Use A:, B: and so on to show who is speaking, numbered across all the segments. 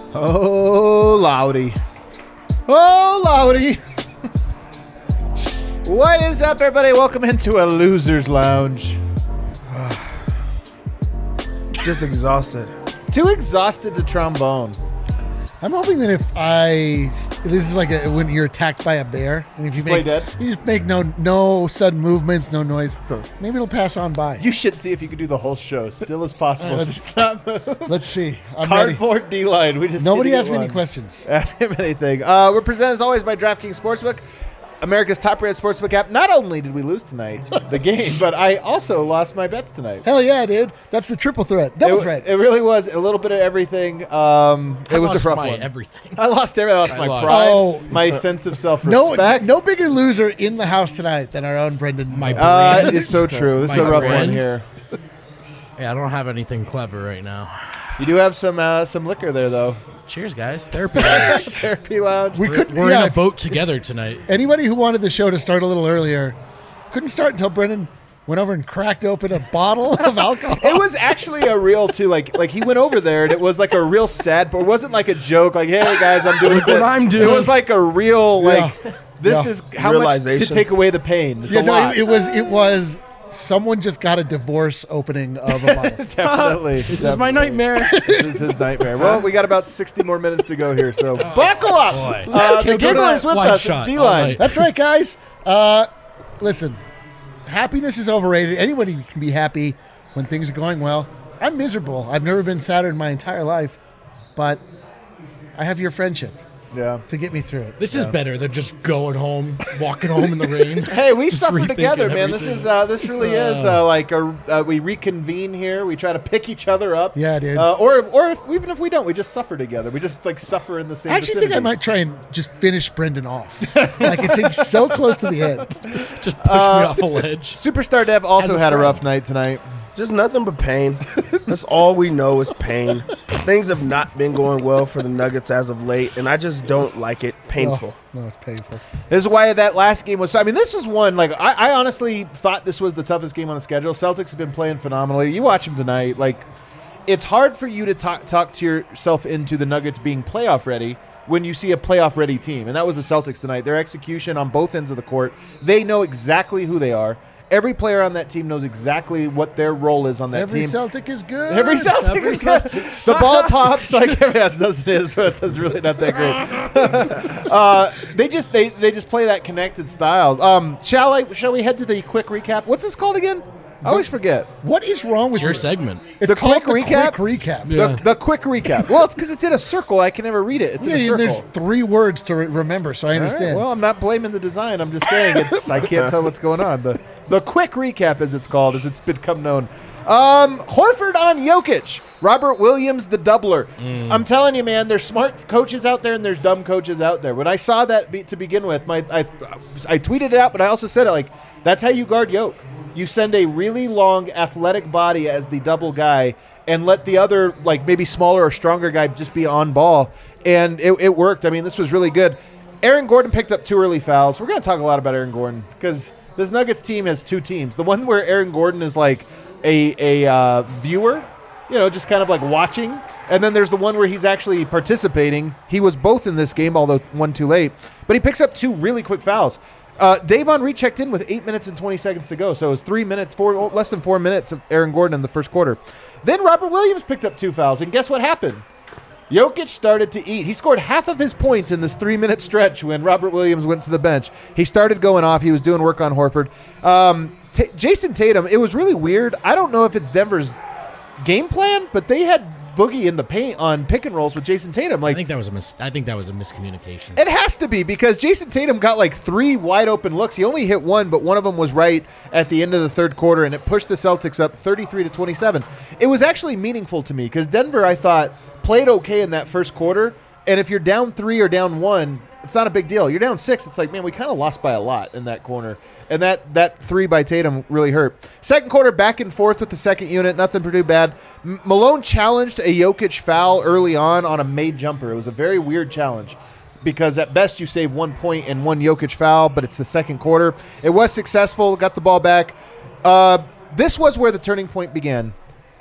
A: Oh, Loudy. Oh, Loudy. What is up, everybody? Welcome into a loser's lounge.
B: Just exhausted.
A: Too exhausted to trombone.
C: I'm hoping that this is like when you're attacked by a bear, and if you
A: Play dead.
C: You just make no sudden movements, no noise. Maybe it'll pass on by.
A: You should see if you could do the whole show. Still as possible. Just not move.
C: Let's see. I'm
A: Cardboard
C: ready.
A: D-line. We just
C: Nobody
A: need to
C: asked
A: get
C: me any
A: one.
C: questions.
A: Ask him anything. We're presented as always by DraftKings Sportsbook, America's top-rated sportsbook app. Not only did we lose tonight, the game, but I also lost my bets tonight.
C: Hell yeah, dude! That's the triple threat, double threat.
A: It really was a little bit of everything. It was a rough one.
D: Everything.
A: I lost everything. I lost my
D: lost.
A: pride,
C: Oh.
A: my sense of self-respect.
C: No bigger loser in the house tonight than our own Brendan.
D: My brand.
A: It's so true. This is a
D: My
A: rough
D: brand.
A: one here.
D: Yeah, I don't have anything clever right now.
A: You do have some liquor there, though.
D: Cheers, guys. Therapy. Lounge.
A: Therapy lounge.
C: We could.
D: We're
C: yeah,
D: in a boat together tonight.
C: Anybody who wanted the show to start a little earlier couldn't start until Brendan went over and cracked open a bottle of alcohol.
A: It was actually a real too. Like he went over there, and it was like a real sad. But it wasn't like a joke. Like, hey guys, I'm doing
D: Look what I'm doing.
A: It was like a real like.
C: Yeah.
A: This
C: Yeah.
A: is how much to
B: Realization.
A: take away the pain. It's
C: Yeah,
A: a
C: no,
A: lot.
C: it was. Someone just got a divorce opening of a bottle.
A: Definitely.
D: This is my nightmare.
A: This is his nightmare. Well, we got about 60 more minutes to go here, so buckle up.
D: boy.
A: The
D: Can't go to
A: giggler is
D: that
A: with
D: wide
A: us.
D: shot
A: It's
D: all
A: D-line.
D: night.
C: That's right, guys. Listen, happiness is overrated. Anybody can be happy when things are going well. I'm miserable. I've never been sadder in my entire life, but I have your friendship
A: Yeah.
C: to get me through it.
D: This is better than just going home, walking home in the rain.
A: Hey, we
D: Just
A: suffer
D: rethinking
A: together, man.
D: everything.
A: This really is like we reconvene here. We try to pick each other up.
C: Yeah, dude.
A: Or even if we don't, we just suffer together. We just like suffer in the same.
C: I actually think I
A: vicinity.
C: might try and just finish Brendan off. Like it's so close to the end.
D: Just push me off a ledge.
A: Superstar Dev also
D: As a
A: had a
D: friend.
A: rough night tonight.
B: Just nothing but pain. That's all we know is pain. Things have not been going well for the Nuggets as of late, and I just don't like it. Painful.
C: No, it's painful.
A: This is why that last game was. I mean, this was one. Like I honestly thought this was the toughest game on the schedule. Celtics have been playing phenomenally. You watch them tonight. Like it's hard for you to talk to yourself into the Nuggets being playoff ready when you see a playoff ready team, and that was the Celtics tonight. Their execution on both ends of the court. They know exactly who they are. Every player on that team knows exactly what their role is on that
C: Every
A: team.
C: Celtic is good.
A: Every Celtic is good. The ball pops like yes, it is, but it's really not that great. They just play that connected style. Shall we head to the quick recap? What's this called again? I always forget.
C: What is wrong with
D: It's your
C: you?
D: segment.
C: It's
A: The
C: called
A: quick recap?
C: Quick recap.
D: Yeah.
A: The quick recap. Well, it's because it's in a circle. I can never read it. It's in a
C: Yeah,
A: circle.
C: there's 3 words to remember, so I
A: All right,
C: understand.
A: well, I'm not blaming the design. I'm just saying I can't tell what's going on. The quick recap, as it's called, as it's become known. Horford on Jokic. Robert Williams, the doubler. I'm telling you, man, there's smart coaches out there and there's dumb coaches out there. When I saw that to begin with, I tweeted it out, but I also said it like, that's how you guard Jokic. You send a really long, athletic body as the double guy and let the other, like maybe smaller or stronger guy just be on ball. And it worked. I mean, this was really good. Aaron Gordon picked up 2 early fouls. We're going to talk a lot about Aaron Gordon because this Nuggets team has 2 teams. The one where Aaron Gordon is like a viewer, just kind of like watching. And then there's the one where he's actually participating. He was both in this game, although one too late. But he picks up 2 really quick fouls. Davon Reed checked in with 8 minutes and 20 seconds to go. So it was 3 minutes, less than 4 minutes of Aaron Gordon in the first quarter. Then Robert Williams picked up 2 fouls. And guess what happened? Jokic started to eat. He scored half of his points in this 3-minute stretch when Robert Williams went to the bench. He started going off. He was doing work on Horford. Jason Tatum, it was really weird. I don't know if it's Denver's game plan, but they had Boogie in the paint on pick and rolls with Jason Tatum.
D: I think that was a miscommunication.
A: It has to be because Jason Tatum got like 3 wide open looks. He only hit 1, but one of them was right at the end of the third quarter, and it pushed the Celtics up 33-27. It was actually meaningful to me because Denver, I thought, played okay in that first quarter. And if you're down 3 or down 1, it's not a big deal. You're down 6. It's like, man, we kind of lost by a lot in that corner. And that 3 by Tatum really hurt. Second quarter, back and forth with the second unit. Nothing too bad. Malone challenged a Jokic foul early on a made jumper. It was a very weird challenge because at best you save 1 point and 1 Jokic foul, but it's the second quarter. It was successful. Got the ball back. This was where the turning point began.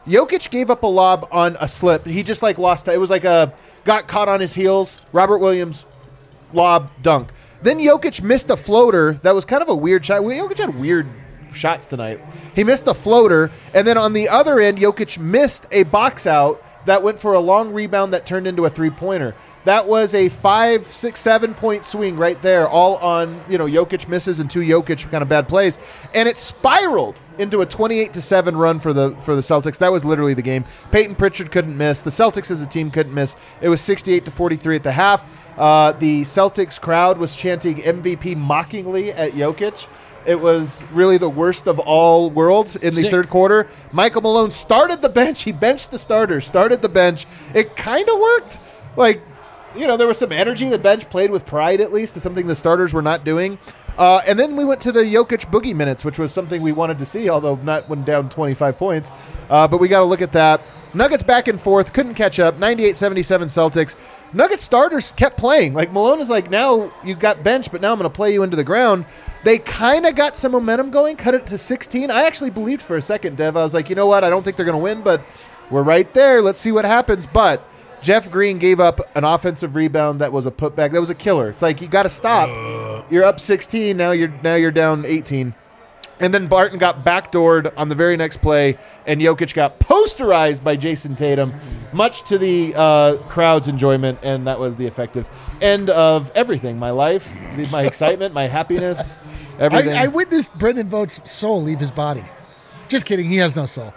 A: Jokic gave up a lob on a slip. He just like lost. It was like got caught on his heels. Robert Williams lob dunk. Then Jokic missed a floater that was kind of a weird shot. Jokic had weird shots tonight. He missed a floater, and then on the other end, Jokic missed a box out that went for a long rebound that turned into a three-pointer. That was a 5, 6, 7-point swing right there, all on, Jokic misses and 2 Jokic kind of bad plays. And it spiraled into a 28-7 run for the Celtics. That was literally the game. Peyton Pritchard couldn't miss. The Celtics as a team couldn't miss. It was 68-43 at the half. The Celtics crowd was chanting MVP mockingly at Jokic. It was really the worst of all worlds in the third quarter. Michael Malone started the bench. He benched the starters, started the bench. It kind of worked. There was some energy. The bench played with pride, at least. It's something the starters were not doing. And then we went to the Jokic boogie minutes, which was something we wanted to see, although not when down 25 points. But we got to look at that. Nuggets back and forth, couldn't catch up. 98-77 Celtics. Nuggets starters kept playing. Malone is now you got benched, but now I'm going to play you into the ground. They kind of got some momentum going, cut it to 16. I actually believed for a second, Dev. I was like, you know what? I don't think they're going to win, but we're right there. Let's see what happens. But Jeff Green gave up an offensive rebound that was a putback. That was a killer. It's like you got to stop. You're up 16. Now you're down 18. And then Barton got backdoored on the very next play, and Jokic got posterized by Jason Tatum, much to the crowd's enjoyment, and that was the effective end of everything. My life, my excitement, my happiness, everything.
C: I witnessed Brendan Vogt's soul leave his body. Just kidding. He has no soul.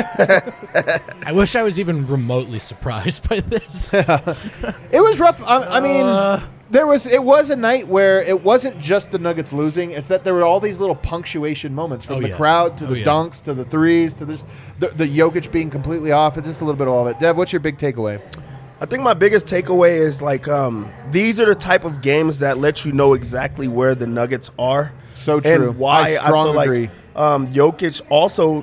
D: I wish I was even remotely surprised by this.
A: It was rough. I mean, it was a night where it wasn't just the Nuggets losing. It's that there were all these little punctuation moments from the crowd to the dunks to the threes to the Jokic being completely off. It's just a little bit of all of it. Dev, what's your big takeaway?
B: I think my biggest takeaway is these are the type of games that let you know exactly where the Nuggets are.
A: So true.
B: And why
A: I strongly agree.
B: Jokic also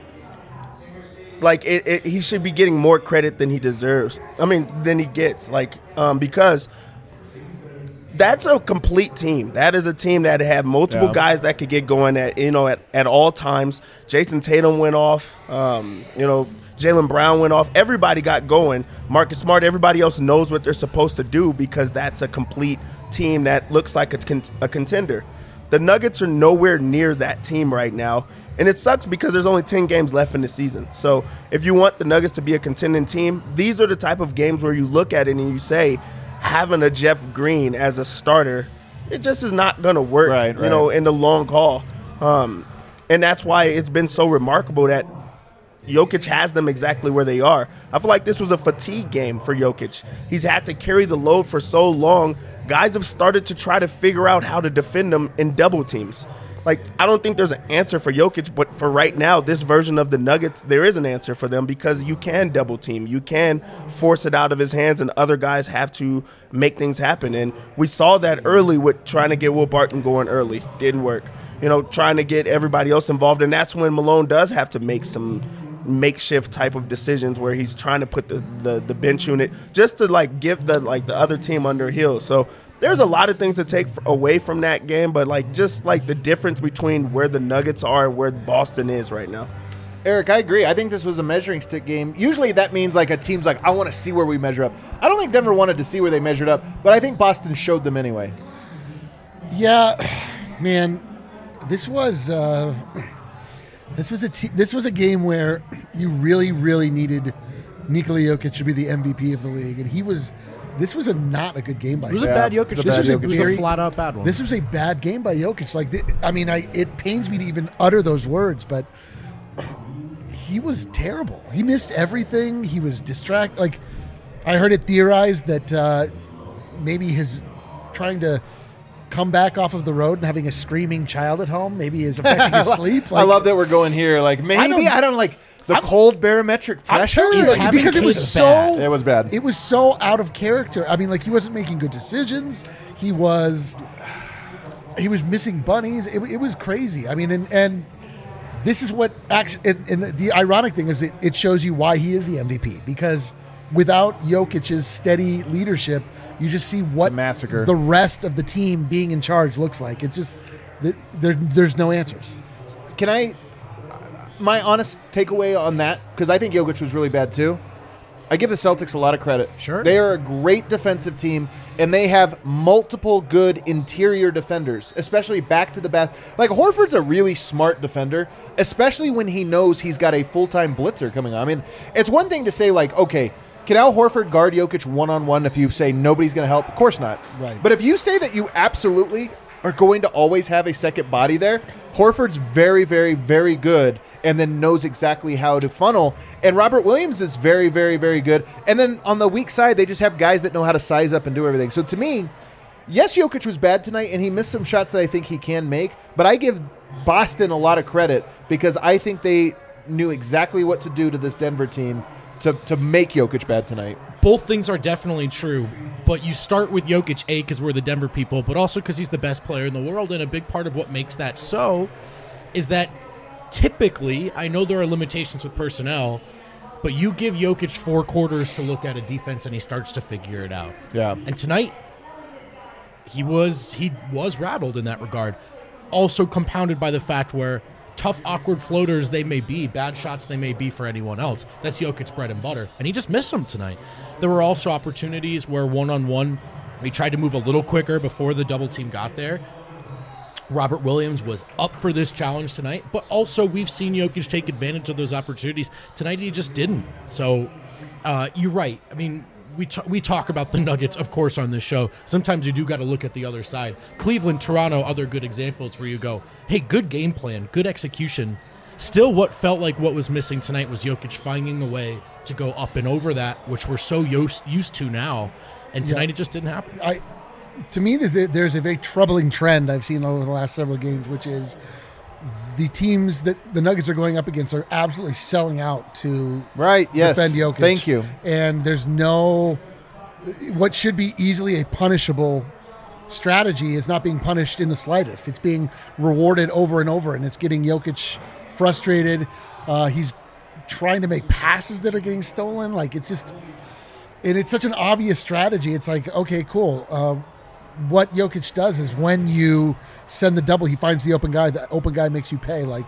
B: he should be getting more credit than he deserves. Than he gets. Because that's a complete team. That is a team that had multiple guys that could get going at all times. Jason Tatum went off. Jaylen Brown went off. Everybody got going. Marcus Smart, everybody else knows what they're supposed to do because that's a complete team that looks like a contender. The Nuggets are nowhere near that team right now. And it sucks because there's only 10 games left in the season. So if you want the Nuggets to be a contending team, these are the type of games where you look at it and you say, having a Jeff Green as a starter, it just is not going to work, in the long haul. And that's why it's been so remarkable that Jokic has them exactly where they are. I feel like this was a fatigue game for Jokic. He's had to carry the load for so long. Guys have started to try to figure out how to defend him in double teams. I don't think there's an answer for Jokic, but for right now, this version of the Nuggets, there is an answer for them because you can double team. You can force it out of his hands, and other guys have to make things happen. And we saw that early with trying to get Will Barton going early. Didn't work. Trying to get everybody else involved, and that's when Malone does have to make some makeshift type of decisions where he's trying to put the bench unit just to give the other team under heel. So there's a lot of things to take away from that game, but the difference between where the Nuggets are and where Boston is right now.
A: Eric, I agree. I think this was a measuring stick game. Usually that means a team's I want to see where we measure up. I don't think Denver wanted to see where they measured up, but I think Boston showed them anyway.
C: Yeah, man, this was a game where you really, really needed Nikola Jokic to be the MVP of the league, and this was not a good game by Jokic.
D: It was a bad Jokic. It was a flat-out bad one.
C: This was a bad game by Jokic. It pains me to even utter those words, but he was terrible. He missed everything. He was distracted. I heard it theorized that maybe his trying to come back off of the road and having a screaming child at home maybe is affecting his sleep.
A: I love that we're going here. I don't like the cold barometric pressure.
C: Because it was
A: it was bad.
C: It was so out of character. He wasn't making good decisions. He was missing bunnies. It was crazy. And this is what actually. And the ironic thing is it shows you why he is the MVP, because without Jokic's steady leadership, you just see what
A: massacre
C: the rest of the team being in charge looks like. It's just there's no answers.
A: Can my honest takeaway on that, because I think Jokic was really bad too, I give the Celtics a lot of credit.
D: Sure.
A: They are a great defensive team, and they have multiple good interior defenders, especially back to the basket. Like, Horford's a really smart defender, especially when he knows he's got a full-time blitzer coming on. I mean, it's one thing to say, like, okay, can Al Horford guard Jokic one-on-one if you say nobody's going to help? Of course not.
C: Right.
A: But if you say that you absolutely are going to always have a second body there, Horford's very, very, very good and then knows exactly how to funnel. And Robert Williams is very, very, very good. And then on the weak side, they just have guys that know how to size up and do everything. So to me, yes, Jokic was bad tonight, and he missed some shots that I think he can make. But I give Boston a lot of credit because I think they knew exactly what to do to this Denver team to make Jokic bad tonight.
D: Both things are definitely true, but you start with Jokic, A, because we're the Denver people, but also because he's the best player in the world, and a big part of what makes that so is that typically, I know there are limitations with personnel, but you give Jokic 4 quarters to look at a defense and he starts to figure it out.
A: Yeah.
D: And tonight, he was rattled in that regard. Also compounded by the fact where tough, awkward floaters they may be, bad shots they may be for anyone else, that's Jokic's bread and butter. And he just missed them tonight. There were also opportunities where one-on-one, he tried to move a little quicker before the double team got there. Robert Williams was up for this challenge tonight, but also we've seen Jokic take advantage of those opportunities. Tonight he just didn't. So you're right. I mean, we talk about the Nuggets, of course, on this show. Sometimes you do got to look at the other side. Cleveland, Toronto, other good examples where you go, hey, good game plan, good execution. Still, what felt like what was missing tonight was Jokic finding a way to go up and over that, which we're so used to now. And tonight it just didn't happen.
C: To me, there's a very troubling trend I've seen over the last several games, which is the teams that the Nuggets are going up against are absolutely selling out to defend Jokic.
A: Thank you.
C: And there's no what should be easily a punishable strategy is not being punished in the slightest. It's being rewarded over and over, and it's getting Jokic frustrated. He's trying to make passes that are getting stolen. Like, it's just, and it's such an obvious strategy. It's like, okay, cool. What Jokic does is when you send the double, he finds the open guy. The open guy makes you pay. Like,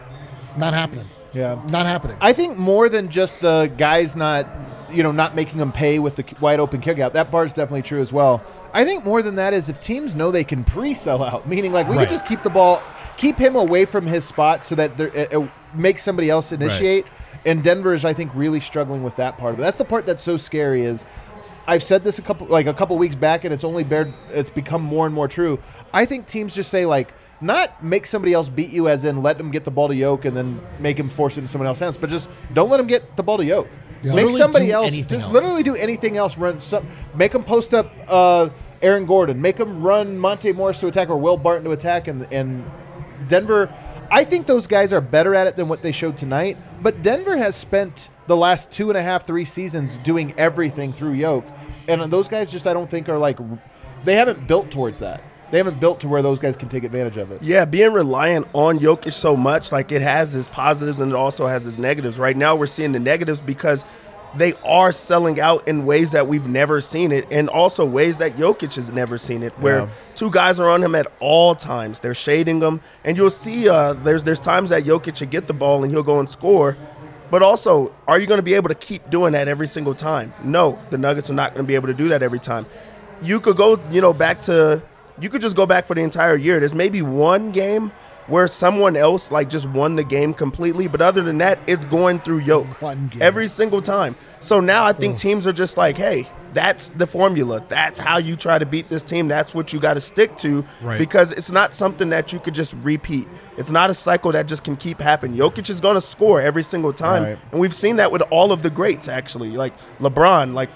C: not happening.
A: Yeah.
C: Not happening.
A: I think more than just the guys not making them pay with the wide open kick out. That part is definitely true as well. I think more than that is if teams know they can pre-sell out, meaning like we could just keep the ball, keep him away from his spot so that it makes somebody else initiate. Right. And Denver is, I think, really struggling with that part of it. That's the part that's so scary is I've said this a couple weeks back, and it's become more and more true. I think teams just say, like, not make somebody else beat you, as in let them get the ball to Yoke and then make him force it into someone else's hands, but just don't let them get the ball to Yoke.
C: Yeah.
A: Make somebody else literally do anything else. Make them post up Aaron Gordon. Make them run Monte Morris to attack or Will Barton to attack. And Denver, I think those guys are better at it than what they showed tonight. But Denver has spent the last 2.5, 3 seasons doing everything through Yoke. And those guys just, I don't think are like, they haven't built towards that. They haven't built to where those guys can take advantage of it.
B: Yeah, being reliant on Jokic so much, like it has its positives and it also has its negatives. Right now we're seeing the negatives because they are selling out in ways that we've never seen it, and also ways that Jokic has never seen it, where two guys are on him at all times. They're shading him, and you'll see there's times that Jokic should get the ball and he'll go and score. But also, are you going to be able to keep doing that every single time? No, the Nuggets are not going to be able to do that every time. You could go, back to – you could just go back for the entire year. There's maybe one game where someone else, like, just won the game completely. But other than that, it's going through Yoke every single time. So now I think teams are just like, hey, that's the formula. That's how you try to beat this team. That's what you got to stick to, because it's not something that you could just repeat. It's not a cycle that just can keep happening. Jokic is going to score every single time. Right. And we've seen that with all of the greats, actually, like LeBron, like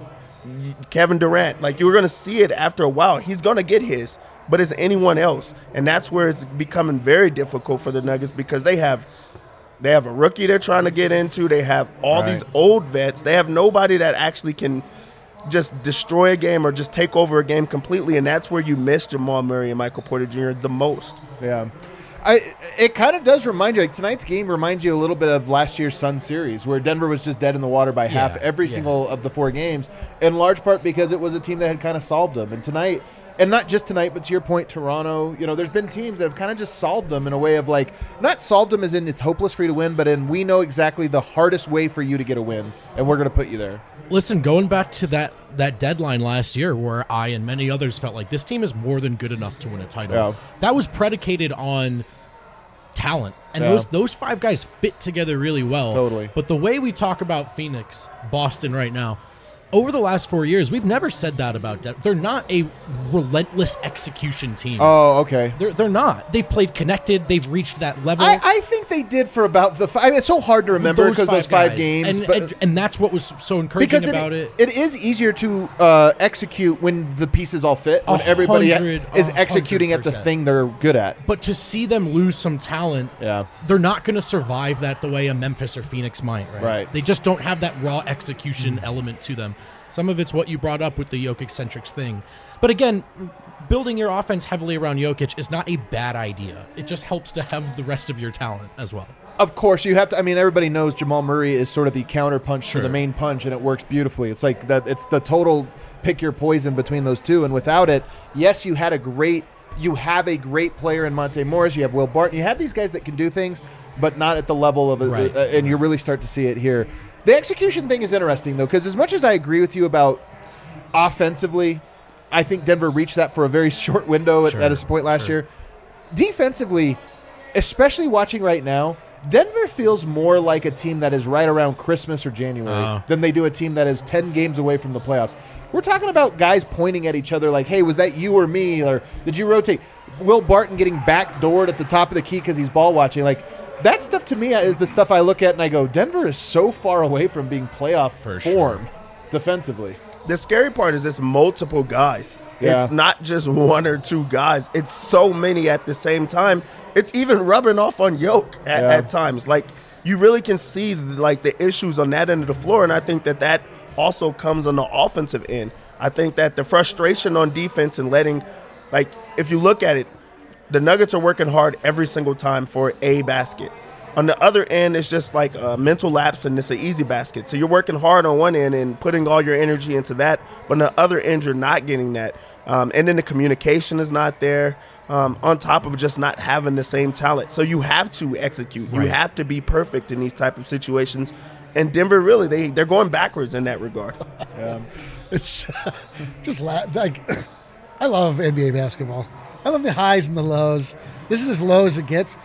B: Kevin Durant. Like, you're going to see it after a while. He's going to get his, but is anyone else? And that's where it's becoming very difficult for the Nuggets, because they have a rookie they're trying to get into. They have all these old vets. They have nobody that actually can just destroy a game or just take over a game completely, and that's where you miss Jamal Murray and Michael Porter Jr. the most.
A: Yeah. It kind of does remind you, like tonight's game reminds you a little bit of last year's Sun series, where Denver was just dead in the water by half every single of the 4 games, in large part because it was a team that had kind of solved them. And tonight, And not just tonight, but to your point, Toronto, there's been teams that have kind of just solved them in a way of like, not solved them as in it's hopeless for you to win, but in we know exactly the hardest way for you to get a win, and we're going to put you there.
D: Listen, going back to that deadline last year where I and many others felt like this team is more than good enough to win a title.
A: Yeah.
D: That was predicated on talent. And those 5 guys fit together really well.
A: Totally.
D: But the way we talk about Phoenix, Boston right now, over the last 4 years, we've never said that about Denver. They're not a relentless execution team.
A: Oh, okay.
D: They're not. They've played connected. They've reached that level.
A: I think they did for about it's so hard to remember because those 5 games.
D: And that's what was so encouraging about it.
A: It is easier to execute when the pieces all fit, when everybody is executing at the thing they're good at.
D: But to see them lose some talent, they're not going to survive that the way a Memphis or Phoenix might.
A: Right.
D: They just don't have that raw execution element to them. Some of it's what you brought up with the Jokic-centric thing. But again, building your offense heavily around Jokic is not a bad idea. It just helps to have the rest of your talent as well.
A: Of course, you have to. I mean, everybody knows Jamal Murray is sort of the counter punch to the main punch, and it works beautifully. It's like that. It's the total pick your poison between those two. And without it, yes, you have a great player in Monte Morris. You have Will Barton. You have these guys that can do things, but not at the level of and you really start to see it here. The execution thing is interesting, though, because as much as I agree with you about offensively, I think Denver reached that for a very short window at a point last year. Defensively, especially watching right now, Denver feels more like a team that is right around Christmas or January than they do a team that is 10 games away from the playoffs. We're talking about guys pointing at each other like, hey, was that you or me? Or did you rotate? Will Barton getting backdoored at the top of the key because he's ball watching. Like, that stuff to me is the stuff I look at and I go, Denver is so far away from being playoff form defensively.
B: The scary part is it's multiple guys.
A: Yeah.
B: It's not just 1 or 2 guys. It's so many at the same time. It's even rubbing off on Yoke at times. Like, you really can see like the issues on that end of the floor, and I think that also comes on the offensive end. I think that the frustration on defense and letting, like, if you look at it, the Nuggets are working hard every single time for a basket. On the other end, it's just like a mental lapse, and it's an easy basket. So you're working hard on one end and putting all your energy into that, but on the other end, you're not getting that. And then the communication is not there, on top of just not having the same talent. So you have to execute. You have to be perfect in these type of situations. And Denver, really, they're going backwards in that regard.
C: It's just like I love NBA basketball. I love the highs and the lows. This is as low as it gets.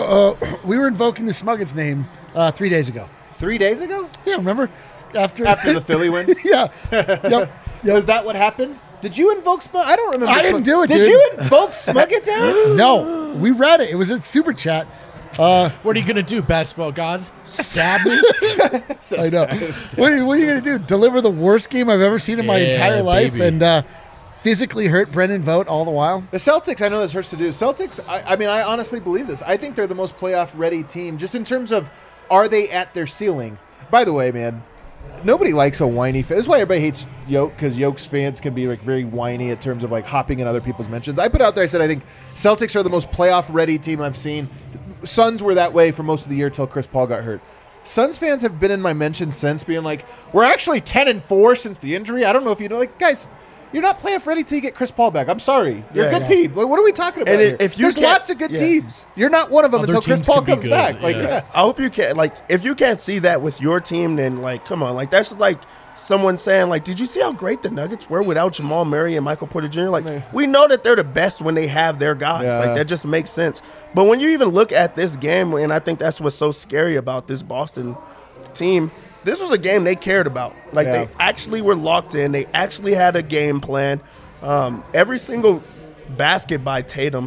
C: We were invoking the Smuggets name 3 days ago.
A: 3 days ago?
C: Yeah, remember? After
A: the Philly win?
C: Yeah. Yep.
A: Was that what happened? Did you invoke Smuggets? I don't remember.
C: I didn't do it,
A: Did
C: dude.
A: you invoke Smuggets out?
C: No. We read it. It was in Super Chat.
D: What are you going to do, basketball gods? Stab me?
C: I know. What are you going to do? Deliver the worst game I've ever seen in my entire life and physically hurt Brendan Vogt all the while?
A: The Celtics, I know this hurts to do. Celtics, I mean, I honestly believe this. I think they're the most playoff-ready team, just in terms of, are they at their ceiling? By the way, man, nobody likes a whiny fan. This is why everybody hates Yoke, because Yoke's fans can be like very whiny in terms of like hopping in other people's mentions. I put out there, I said, I think Celtics are the most playoff-ready team I've seen. Suns were that way for most of the year until Chris Paul got hurt. Suns fans have been in my mentions since, being like, we're actually 10-4 since the injury. I don't know if you know, like, guys, you're not playoff ready till you get Chris Paul back. I'm sorry. You're a good team. Like, what are we talking about here? There's lots of good teams. You're not one of them until Chris Paul comes back. Like,
B: I hope you can. Like, if you can't see that with your team, then like, come on. Like, that's just like someone saying, like, did you see how great the Nuggets were without Jamal Murray and Michael Porter Jr.? Like, we know that they're the best when they have their guys.
A: Yeah.
B: Like, that just makes sense. But when you even look at this game, and I think that's what's so scary about this Boston team, this was a game they cared about. Like, they actually were locked in. They actually had a game plan. Every single basket by Tatum,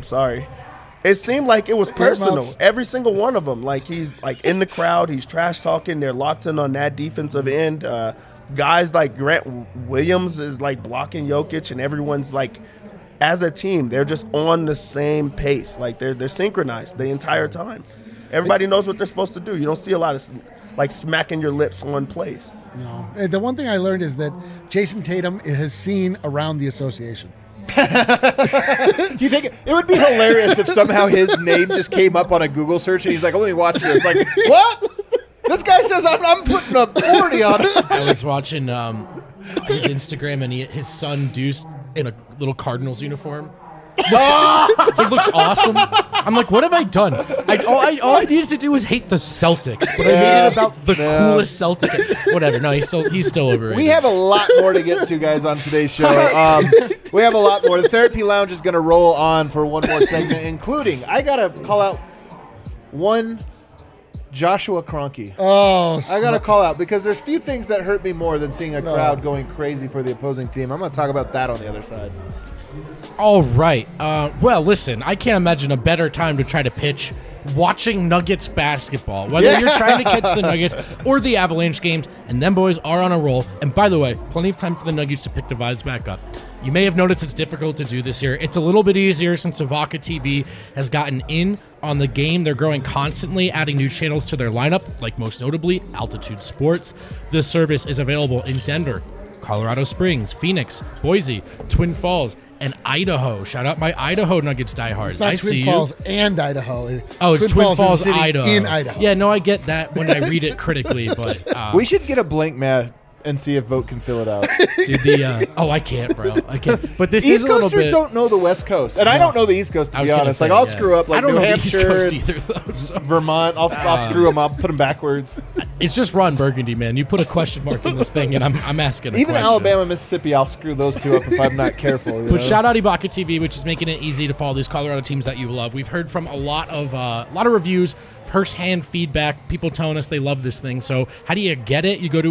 B: it seemed like it was personal. Every single one of them. Like, he's like in the crowd, he's trash talking. They're locked in on that defensive end. Guys like Grant Williams is like blocking Jokic, and everyone's like, as a team, they're just on the same pace. Like, they're synchronized the entire time. Everybody knows what they're supposed to do. You don't see a lot of like smacking your lips on plays.
C: No. And the one thing I learned is that Jason Tatum has seen around the association.
A: Do you think it would be hilarious if somehow his name just came up on a Google search and he's like, let me watch this. Like, what? This guy says I'm putting a 40 on it.
D: I was watching his Instagram, and his son Deuce in a little Cardinals uniform. It looks awesome. I'm like, what have I done? All I needed to do was hate the Celtics, but I made it about the coolest Celtic. Whatever. No, he's still overrated.
A: We have a lot more to get to, guys, on today's show. We have a lot more. The Therapy Lounge is going to roll on for one more segment, including, I got to call out one Joshua Kroenke.
C: Oh,
A: I got to call out because there's few things that hurt me more than seeing a crowd going crazy for the opposing team. I'm going to talk about that on the other side.
D: All right. Well, listen, I can't imagine a better time to try to pitch watching Nuggets basketball. Whether you're trying to catch the Nuggets or the Avalanche games, and them boys are on a roll. And by the way, plenty of time for the Nuggets to pick the vibes back up. You may have noticed it's difficult to do this year. It's a little bit easier since Avaka TV has gotten in on the game. They're growing constantly, adding new channels to their lineup, like most notably Altitude Sports. This service is available in Denver, Colorado Springs, Phoenix, Boise, Twin Falls, and Idaho. Shout out my Idaho Nuggets diehards.
C: It's not Twin Falls and Idaho.
D: Oh, it's Twin Falls,
C: is a city
D: Idaho.
C: in Idaho.
D: Yeah, no, I get that when I read it critically, but
A: We should get a blank mat and see if Vote can fill it out.
D: dude, I can't, bro. I can't. But this
A: East
D: is a little
A: Coasters
D: bit.
A: don't know the West Coast, and I don't know the East Coast, to
D: I was
A: be
D: gonna
A: honest.
D: say,
A: Like, I'll
D: yeah.
A: screw up, like
D: I don't
A: New
D: know the East
A: Hampshire,
D: Coast either, though. So.
A: Vermont. I'll screw them up, put them backwards.
D: It's just Ron Burgundy, man. You put a question mark in this thing, and I'm asking a
A: Even
D: question.
A: Alabama, Mississippi, I'll screw those two up if I'm not careful.
D: But shout out Ivaka TV, which is making it easy to follow these Colorado teams that you love. We've heard from a lot of reviews, first-hand feedback, people telling us they love this thing. So how do you get it? You go to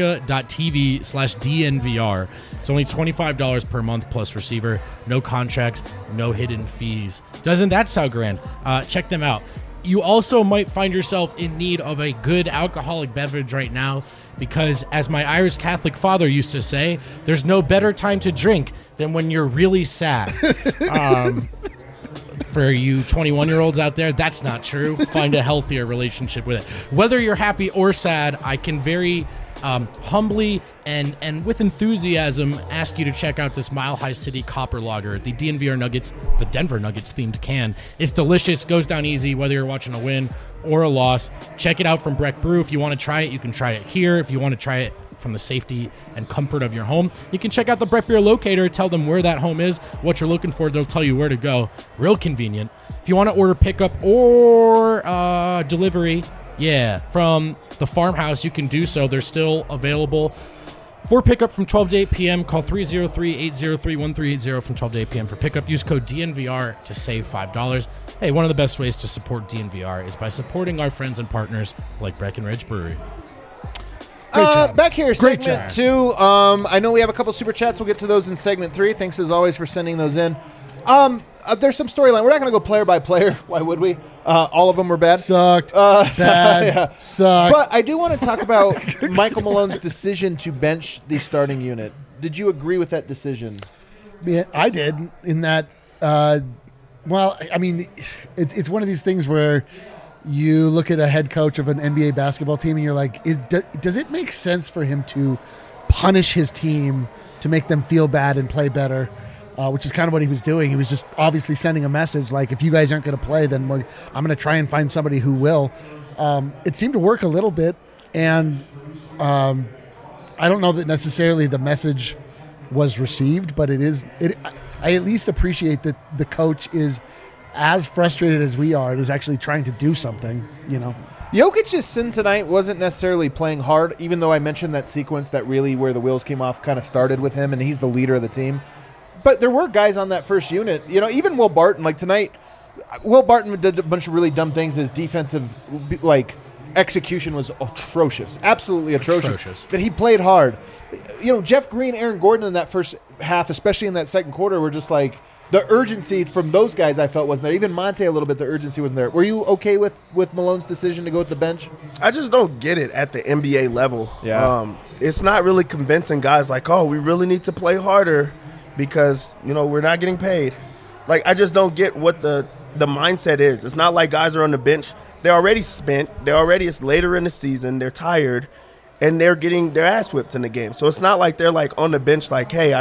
D: avaka.tv/DNVR. It's only $25 per month plus receiver. No contracts, no hidden fees. Doesn't that sound grand? Check them out. You also might find yourself in need of a good alcoholic beverage right now because, as my Irish Catholic father used to say, there's no better time to drink than when you're really sad. For you 21-year-olds out there, that's not true. Find a healthier relationship with it. Whether you're happy or sad, I can very humbly and with enthusiasm ask you to check out this Mile High City Copper Lager, the DNVR Nuggets, the Denver Nuggets themed can. It's delicious, goes down easy whether you're watching a win or a loss. Check it out from Breck Brew. If you want to try it, you can try it here. If you want to try it from the safety and comfort of your home, you can check out the Breck Beer Locator. Tell them where that home is, what you're looking for. They'll tell you where to go. Real convenient. If you want to order pickup or delivery, from the farmhouse, you can do so. They're still available for pickup from 12 to 8 p.m. Call 303-803-1380 from 12 to 8 p.m. for pickup. Use code DNVR to save $5. Hey, one of the best ways to support DNVR is by supporting our friends and partners like Breckenridge Brewery.
A: Back here,
C: Great
A: segment
C: job.
A: 2. I know we have a couple super chats. We'll get to those in segment 3. Thanks as always for sending those in. There's some storyline. We're not going to go player by player. Why would we? All of them were bad.
C: Sucked. Bad. Sucked.
A: But I do want to talk about Michael Malone's decision to bench the starting unit. Did you agree with that decision?
C: Yeah, I did in that. Well, I mean, it's one of these things where you look at a head coach of an NBA basketball team and you're like, does it make sense for him to punish his team to make them feel bad and play better? Which is kind of what he was doing. He was just obviously sending a message like, if you guys aren't going to play, then I'm going to try and find somebody who will. It seemed to work a little bit, and I don't know that necessarily the message was received, but I at least appreciate that the coach is as frustrated as we are and is actually trying to do something, you know.
A: Jokic's sin tonight wasn't necessarily playing hard, even though I mentioned that sequence that really where the wheels came off kind of started with him, and he's the leader of the team. But there were guys on that first unit, you know, even Will Barton, like tonight, Will Barton did a bunch of really dumb things. His defensive, execution was atrocious, absolutely atrocious. But he played hard. You know, Jeff Green, Aaron Gordon in that first half, especially in that second quarter, were just like, the urgency from those guys I felt wasn't there. Even Monte a little bit, the urgency wasn't there. Were you okay with Malone's decision to go with the bench?
B: I just don't get it at the NBA level.
A: Yeah.
B: It's not really convincing guys like, oh, we really need to play harder because, you know, we're not getting paid. Like, I just don't get what the mindset is. It's not like guys are on the bench. They're already spent. It's later in the season. They're tired, and they're getting their ass whipped in the game. So it's not like they're, like, on the bench like, hey,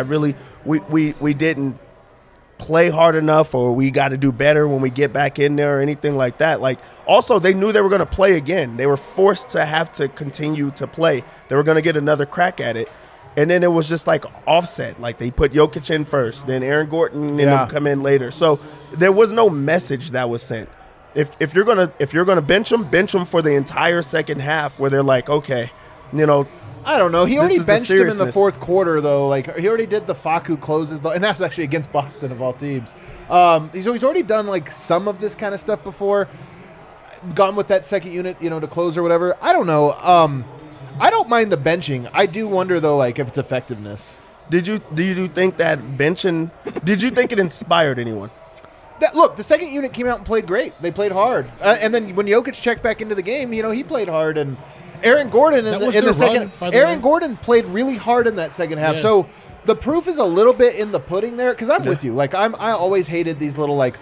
B: we didn't play hard enough or we got to do better when we get back in there or anything like that. Like, also, they knew they were going to play again. They were forced to have to continue to play. They were going to get another crack at it. And then it was just like offset. Like they put Jokic in first, then Aaron Gordon and
A: Yeah.
B: them come in later. So there was no message that was sent. If you're gonna bench them for the entire second half, where they're like, okay, you know,
A: I don't know. He
B: This
A: already
B: is the
A: benched him in the
B: seriousness.
A: fourth quarter, though. Like he already did the Facu closes, though, and that's actually against Boston of all teams. He's already done like some of this kind of stuff before. Gone with that second unit, to close or whatever. I don't know. I don't mind the benching. I do wonder though, like if it's effectiveness.
B: do you think that benching? Did you think it inspired anyone?
A: Look, the second unit came out and played great. They played hard, and then when Jokic checked back into the game, he played hard. And Aaron Gordon in
D: That
A: the,
D: was
A: in the
D: their run,
A: second,
D: by the
A: Aaron
D: way.
A: Gordon played really hard in that second half.
D: Yeah.
A: So the proof is a little bit in the pudding there. Because I'm with you. Like I always hated these little like,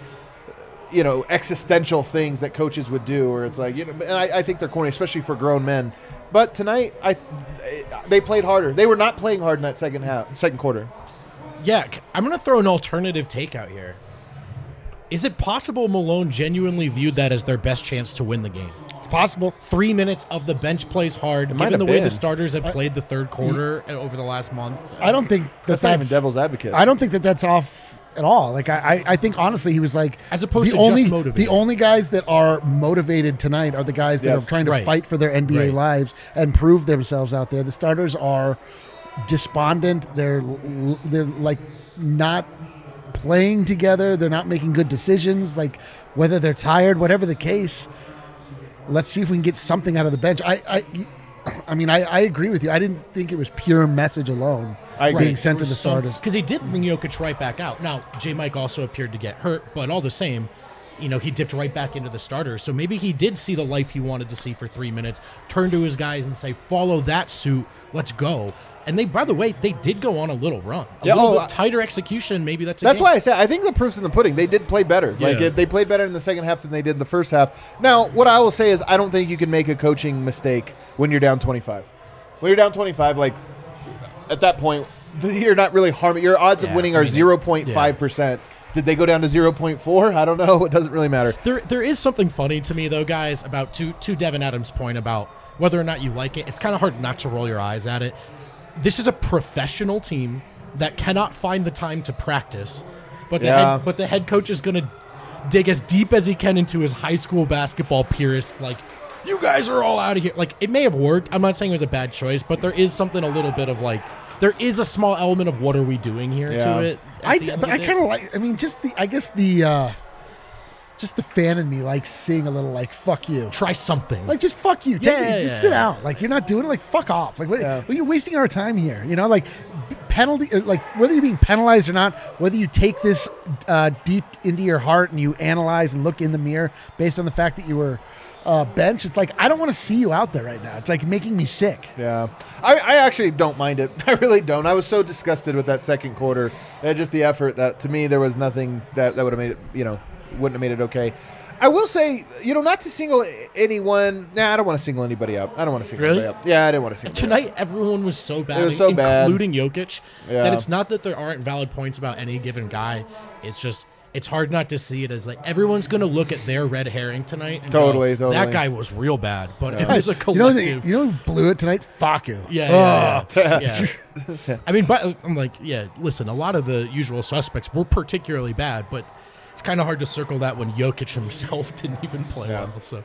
A: existential things that coaches would do, where it's like, and I think they're corny, especially for grown men. But tonight, they played harder. They were not playing hard in that second quarter.
D: Yeah, I'm going to throw an alternative take out here. Is it possible Malone genuinely viewed that as their best chance to win the game?
C: It's possible.
D: 3 minutes of the bench plays hard,
A: might
D: given the
A: have
D: way
A: been.
D: the starters have played the third quarter over the last month.
C: I don't think
A: That's not even devil's advocate.
C: I don't think that's off at all. Like I think honestly, he was like
D: As opposed
C: the
D: to just
C: only
D: motivated.
C: the only guys that are motivated tonight are the guys that
A: Yeah.
C: are trying to
D: Right.
C: fight for their NBA
D: Right.
C: lives and prove themselves out there. The starters are despondent. They're like not playing together. They're not making good decisions. Like whether they're tired, whatever the case. Let's see if we can get something out of the bench. I mean, I agree with you. I didn't think it was pure message alone
A: I agree.
C: being sent to the starters.
D: Because he did bring Jokic right back out. Now, J. Mike also appeared to get hurt, but all the same, he dipped right back into the starters. So maybe he did see the life he wanted to see for 3 minutes, turn to his guys and say, follow that suit, let's go. And they, by the way, they did go on a little run. A little bit tighter execution, maybe that's
A: why I said I think the proof's in the pudding. They did play better.
D: Yeah.
A: Like they played better in the second half than they did in the first half. Now, what I will say is I don't think you can make a coaching mistake when you're down 25. When you're down 25, like at that point, you're not really harming. Your odds of
D: Yeah,
A: winning
D: I
A: are
D: mean,
A: 0.5%. Did they go down to 0.4? I don't know. It doesn't really matter.
D: There is something funny to me, though, guys, about to Devin Adams' point about whether or not you like it. It's kind of hard not to roll your eyes at it. This is a professional team that cannot find the time to practice, but the head coach is going to dig as deep as he can into his high school basketball purist. Like, you guys are all out of here. Like, it may have worked. I'm not saying it was a bad choice, but there is something a little bit of like, there is a small element of what are we doing here
A: Yeah.
D: to it.
C: But I kind of like. I mean, just the fan in me likes seeing a little like fuck you.
D: try something.
C: Like just fuck you. Just sit out. Like you're not doing it. Like fuck off. Like what, you're wasting our time here. Like penalty. Or like whether you're being penalized or not. Whether you take this deep into your heart and you analyze and look in the mirror based on the fact that you were benched. It's like I don't want to see you out there right now. It's like making me sick.
A: Yeah. I actually don't mind it. I really don't. I was so disgusted with that second quarter and just the effort that to me there was nothing that would have made it, wouldn't have made it okay. I will say, not to single anyone. Nah, I don't want to single anybody out. I don't want to single
D: Really?
A: anybody out. Yeah, I didn't want to single
D: Tonight, everyone was so bad,
A: It was so bad.
D: including Jokic,
A: Yeah.
D: that it's not that there aren't valid points about any given guy. It's just, it's hard not to see it as like everyone's going to look at their red herring tonight. And
A: Totally,
D: go,
A: totally.
D: That guy was real bad, but it was a
C: You know,
D: collective.
C: you know who blew it tonight? Faku.
D: Yeah. I mean, but I'm like, listen, a lot of the usual suspects were particularly bad, but it's kind of hard to circle that when Jokic himself didn't even play well. So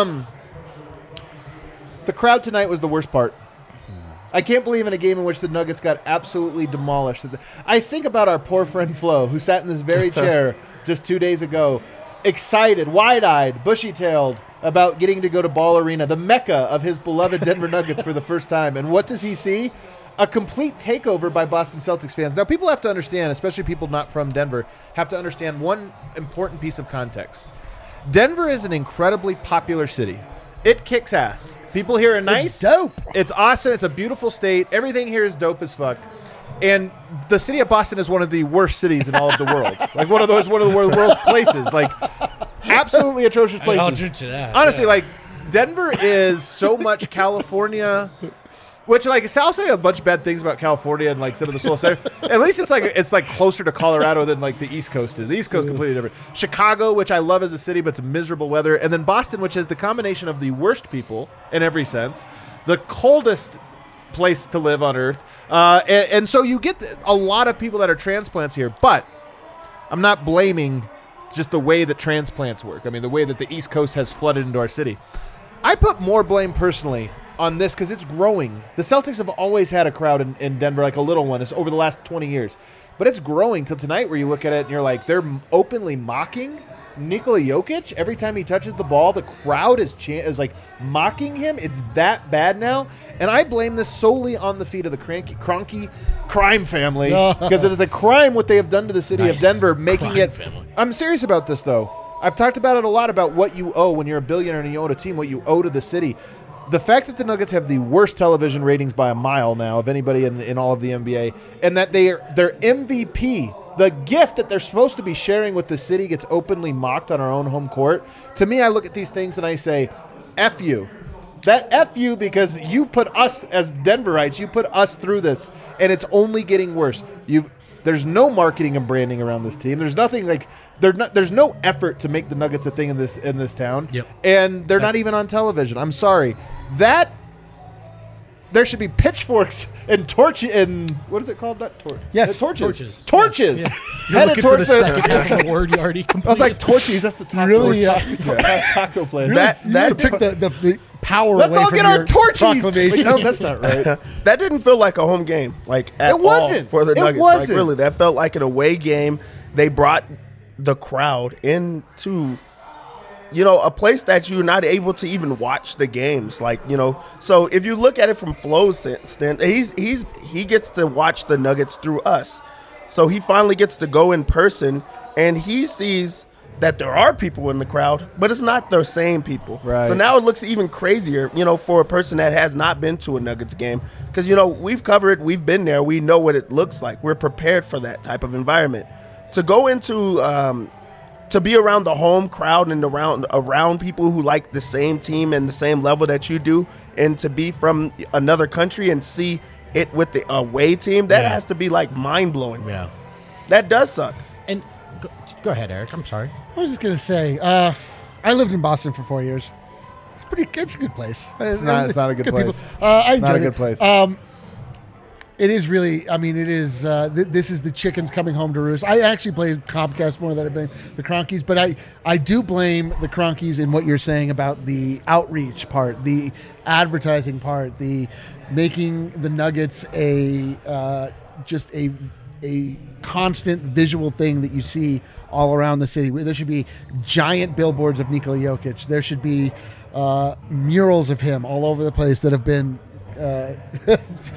A: The crowd tonight was the worst part. I can't believe in a game in which the Nuggets got absolutely demolished. I think about our poor friend Flo, who sat in this very chair just 2 days ago, excited, wide-eyed, bushy-tailed about getting to go to Ball Arena, the mecca of his beloved Denver Nuggets for the first time. And what does he see? A complete takeover by Boston Celtics fans. Now, people have to understand, especially people not from Denver, have to understand one important piece of context. Denver is an incredibly popular city. It kicks ass. People here are nice.
C: It's dope.
A: It's awesome. It's a beautiful state. Everything here is dope as fuck. And the city of Boston is one of the worst cities in all of the world. Like one of the worst places. Like absolutely atrocious places.
D: I'll drink to that.
A: Honestly, like Denver is so much California. Which, like, I'll say a bunch of bad things about California and, like, some of the soul center. At least it's like closer to Colorado than, like, the East Coast is. The East Coast is completely different. Chicago, which I love as a city, but it's miserable weather. And then Boston, which has the combination of the worst people in every sense, the coldest place to live on Earth. And so you get a lot of people that are transplants here. But I'm not blaming just the way that transplants work. I mean, the way that the East Coast has flooded into our city. I put more blame personally on this because it's growing. The Celtics have always had a crowd in Denver, like a little one. It's over the last 20 years. But it's growing till tonight where you look at it and you're like, they're openly mocking Nikola Jokic. Every time he touches the ball, the crowd is like mocking him. It's that bad now. And I blame this solely on the feet of the Kroenke crime family because it is a crime what they have done to the city of Denver, making
D: Crime
A: it.
D: family.
A: I'm serious about this, though. I've talked about it a lot about what you owe when you're a billionaire and you own a team, what you owe to the city. The fact that the Nuggets have the worst television ratings by a mile now of anybody in all of the NBA, and that their MVP, the gift that they're supposed to be sharing with the city, gets openly mocked on our own home court. To me, I look at these things and I say, F you. That F you because you put us as Denverites, you put us through this, and it's only getting worse. There's no marketing and branding around this team. There's nothing like there's no effort to make the Nuggets a thing in this town.
D: Yep.
A: And they're not even on television. I'm sorry. There should be pitchforks and torch and what is it called? Not torch.
C: Yes.
A: Torches.
D: Yeah. You're
A: Headed
D: looking for the
A: towards
D: second half of the word you already completed.
A: I was like torches. That's the taco.
C: Really,
A: taco place.
C: That took the power
A: Let's
C: away
A: all
C: from
A: get our
C: your
A: torches.
C: proclamation.
A: No, that's not right.
B: That didn't feel like a home game, like at
A: It wasn't.
B: all for the
A: It
B: Nuggets.
A: wasn't.
B: Like really, that felt like an away game. They brought the crowd into, a place that you're not able to even watch the games. Like, so if you look at it from Flo's stand, he gets to watch the Nuggets through us. So he finally gets to go in person, and he sees that there are people in the crowd, but it's not the same people.
A: Right.
B: So now it looks even crazier, for a person that has not been to a Nuggets game. Because, we've been there. We know what it looks like. We're prepared for that type of environment. To go into, to be around the home crowd and around people who like the same team and the same level that you do, and to be from another country and see it with the away team, that has to be like mind-blowing.
D: Yeah.
B: That does suck.
D: And go ahead, Eric. I'm sorry.
C: I was just gonna say, I lived in Boston for 4 years. It's a good place.
A: It's not a good place.
C: People. I enjoyed
A: Not a good
C: it.
A: place.
C: It is really. I mean, it is. This is the chickens coming home to roost. I actually play Comcast more than I blame the Kroenkes, but I do blame the Kroenkes in what you're saying about the outreach part, the advertising part, the making the Nuggets just a constant visual thing that you see all around the city. There should be giant billboards of Nikola Jokic. There should be murals of him all over the place that have been.
A: But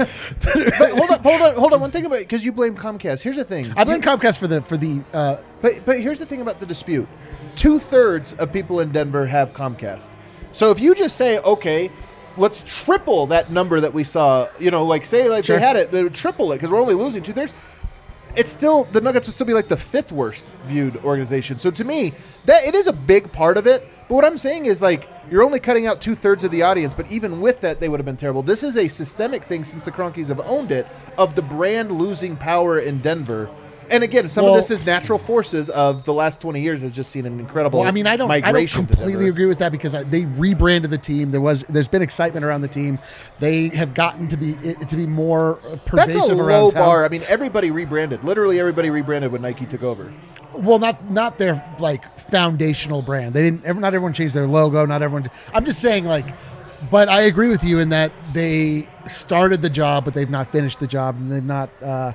A: hold on. One thing about because you blame Comcast. Here's the thing.
C: I blame Comcast for the.
A: But here's the thing about the dispute. 2/3 of people in Denver have Comcast. So if you just say, okay, let's triple that number that we saw,
C: Sure.
A: they had it, they would triple it because we're only losing 2/3. It's still the Nuggets would still be like the 5th worst viewed organization. So to me, that it is a big part of it. But what I'm saying is like you're only cutting out 2/3 of the audience. But even with that, they would have been terrible. This is a systemic thing since the Kroenkes have owned it of the brand losing power in Denver. And again, some of this is natural forces of the last 20 years has just seen an incredible
C: Well, I mean, I don't
A: migration to
C: completely
A: Denver.
C: agree with that because they rebranded the team. There's been excitement around the team. They have gotten to be more pervasive
A: That's a
C: around
A: low
C: town.
A: bar. I mean, everybody rebranded. Literally everybody rebranded when Nike took over.
C: Well, not their like foundational brand. They didn't. Not everyone changed their logo. Not everyone. I'm just saying like. But I agree with you in that they started the job, but they've not finished the job, and they've not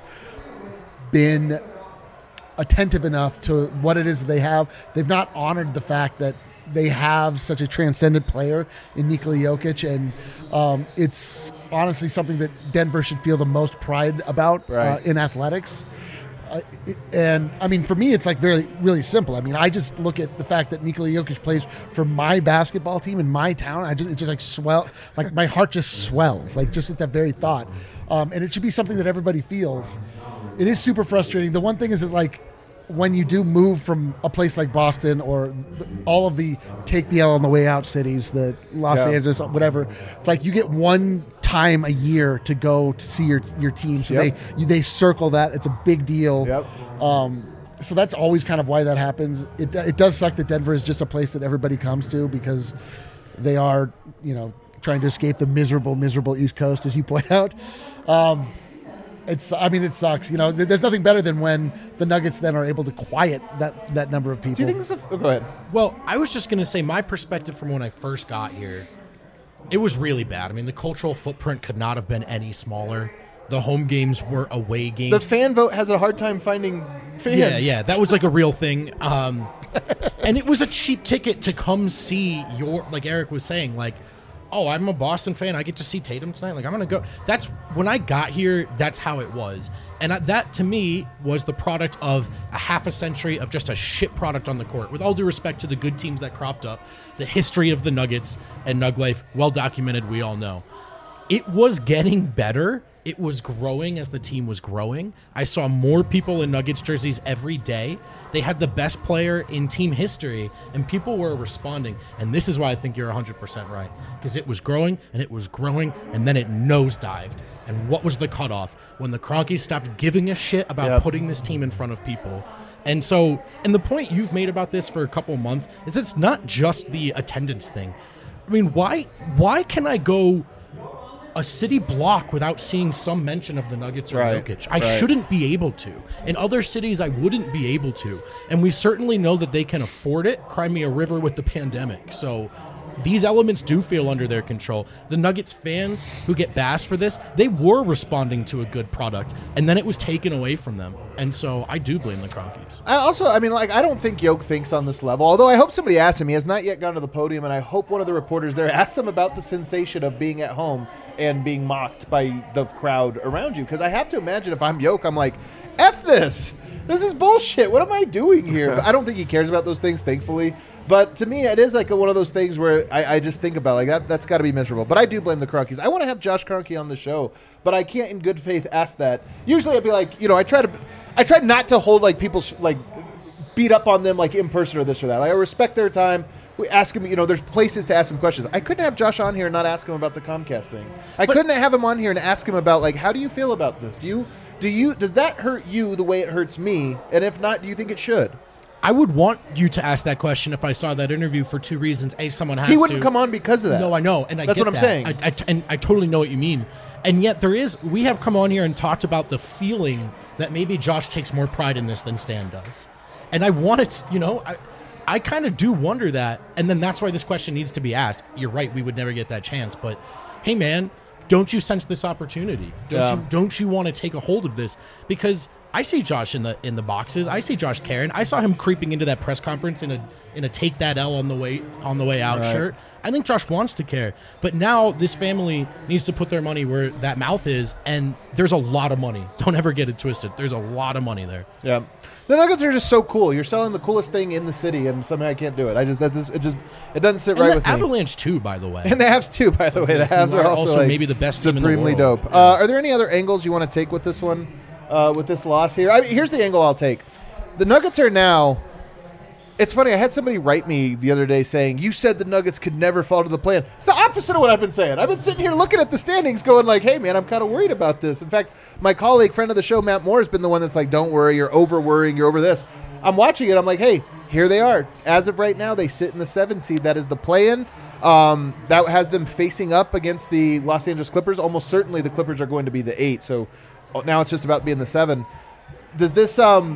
C: been attentive enough to what it is that they have. They've not honored the fact that they have such a transcendent player in Nikola Jokic, and it's honestly something that Denver should feel the most pride about in athletics. And I mean, for me, it's like really simple. I mean, I just look at the fact that Nikola Jokic plays for my basketball team in my town. It just like my heart just swells, like just with that very thought. And it should be something that everybody feels. It is super frustrating. The one thing is like when you do move from a place like Boston or all of the take the L on the way out cities, the Los Angeles, whatever, it's like you get one time a year to go to see your team. So they circle that. It's a big deal.
A: Yep.
C: So that's always kind of why that happens. It does suck that Denver is just a place that everybody comes to because they are, trying to escape the miserable East Coast, as you point out. It sucks. There's nothing better than when the Nuggets then are able to quiet that number of people.
A: Do you think this is go ahead.
D: Well, I was just going to say my perspective from when I first got here, it was really bad. I mean, the cultural footprint could not have been any smaller. The home games were away games.
A: The fan vote has a hard time finding fans.
D: Yeah, that was like a real thing. And it was a cheap ticket to come see like Eric was saying, like, oh, I'm a Boston fan. I get to see Tatum tonight. Like, I'm going to go. That's when I got here. That's how it was. And that, to me, was the product of a half a century of just a shit product on the court. With all due respect to the good teams that cropped up, the history of the Nuggets and Nug Life, well documented, we all know. It was getting better. It was growing as the team was growing. I saw more people in Nuggets jerseys every day. They had the best player in team history, and people were responding. And this is why I think you're 100% right, because it was growing, and then it nosedived. And what was the cutoff? When the Kroenkes stopped giving a shit about putting this team in front of people. And the point you've made about this for a couple months is it's not just the attendance thing. I mean, why can I go a city block without seeing some mention of the Nuggets or Jokic? I shouldn't be able to. In other cities, I wouldn't be able to. And we certainly know that they can afford it. Cry me a river with the pandemic. So these elements do feel under their control. The Nuggets fans who get bashed for this, they were responding to a good product, and then it was taken away from them. And so I do blame the Kroenkes.
A: I don't think Yoke thinks on this level, although I hope somebody asks him. He has not yet gone to the podium, and I hope one of the reporters there asks him about the sensation of being at home and being mocked by the crowd around you. Because I have to imagine if I'm Yoke, I'm like, F this. This is bullshit. What am I doing here? But I don't think he cares about those things, thankfully. But to me, it is like one of those things where I just think about like that's got to be miserable. But I do blame the Kroenkes. I want to have Josh Kroenke on the show, but I can't in good faith ask that. Usually I'd be like, I try not to hold like people like beat up on them like in person or this or that. Like, I respect their time. We ask him, there's places to ask him questions. I couldn't have Josh on here and not ask him about the Comcast thing. I couldn't have him on here and ask him about like, how do you feel about this? Does that hurt you the way it hurts me? And if not, do you think it should?
D: I would want you to ask that question if I saw that interview for two reasons. A, someone has to.
A: He wouldn't come on because of that.
D: No, I know, and
A: that's what I'm saying.
D: I totally know what you mean. And yet we have come on here and talked about the feeling that maybe Josh takes more pride in this than Stan does. And I want it, I kind of do wonder that. And then that's why this question needs to be asked. You're right, we would never get that chance. But, hey, man, don't you sense this opportunity? Don't you want to take a hold of this? Because I see Josh in the boxes. I see Josh caring. I saw him creeping into that press conference in a take that L on the way out shirt. I think Josh wants to care. But now this family needs to put their money where that mouth is, and there's a lot of money. Don't ever get it twisted. There's a lot of money there.
A: Yeah. The Nuggets are just so cool. You're selling the coolest thing in the city, and somehow I can't do it. It doesn't sit right with me.
D: And the Avalanche too, by the way.
A: And the Avs too, by the way. The Avs are also like
D: maybe the best team in the world.
A: Supremely dope.
D: Yeah.
A: Are there any other angles you want to take with this one? With this loss here? Here's the angle I'll take. The Nuggets are now... It's funny, I had somebody write me the other day saying, you said the Nuggets could never fall to the plan. It's the opposite of what I've been saying. I've been sitting here looking at the standings going like, hey, man, I'm kind of worried about this. In fact, my colleague, friend of the show, Matt Moore, has been the one that's like, don't worry, you're over-worrying, you're over this. I'm watching it. I'm like, hey, here they are. As of right now, they sit in the 7 seed. That is the play-in. That has them facing up against the Los Angeles Clippers. Almost certainly the Clippers are going to be the 8. So now it's just about being the 7. Does this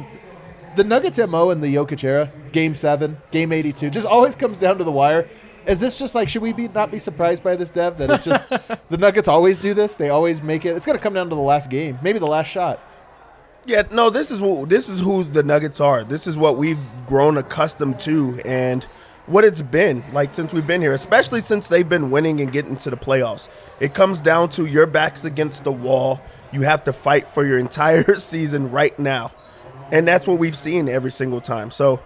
A: the Nuggets MO in the Jokic era, Game 7, Game 82, just always comes down to the wire. Is this just like, should we not be surprised by this, Dev, that it's just the Nuggets always do this? They always make it. It's going to come down to the last game, maybe the last shot.
B: Yeah, no, this is who the Nuggets are. This is what we've grown accustomed to and what it's been like since we've been here, especially since they've been winning and getting to the playoffs. It comes down to your back's against the wall. You have to fight for your entire season right now. And that's what we've seen every single time. So,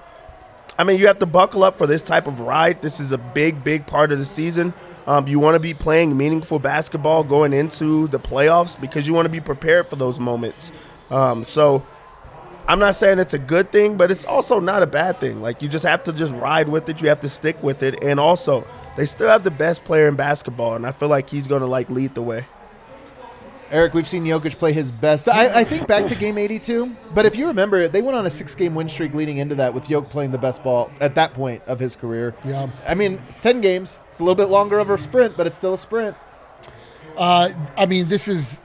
B: I mean, you have to buckle up for this type of ride. This is a big, big part of the season. You want to be playing meaningful basketball going into the playoffs because you want to be prepared for those moments. So I'm not saying it's a good thing, but it's also not a bad thing. Like, you just have to just ride with it. You have to stick with it. And also, they still have the best player in basketball, and I feel like he's going to, lead the way.
A: Eric, we've seen Jokic play his best. I think back to game 82, but if you remember, they went on a 6-game win streak leading into that with Jokic playing the best ball at that point of his career.
C: Yeah.
A: I mean, 10 games. It's a little bit longer of a sprint, but it's still a sprint.
C: I mean, this is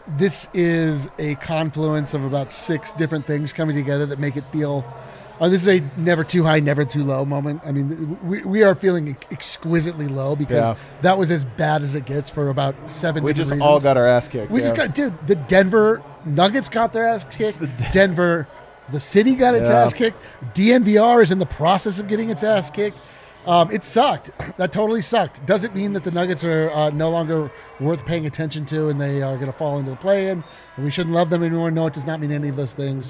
C: a confluence of about 6 different things coming together that make it feel. This is a never too high, never too low moment. I mean, we are feeling exquisitely low because that was as bad as it gets for about 7
A: We
C: different
A: just
C: reasons.
A: all got our ass kicked.
C: We just got, dude, the Denver Nuggets got their ass kicked. The city got its ass kicked. DNVR is in the process of getting its ass kicked. It sucked. That totally sucked. Doesn't mean that the Nuggets are no longer worth paying attention to and they are going to fall into the play-in and we shouldn't love them anymore. No, it does not mean any of those things.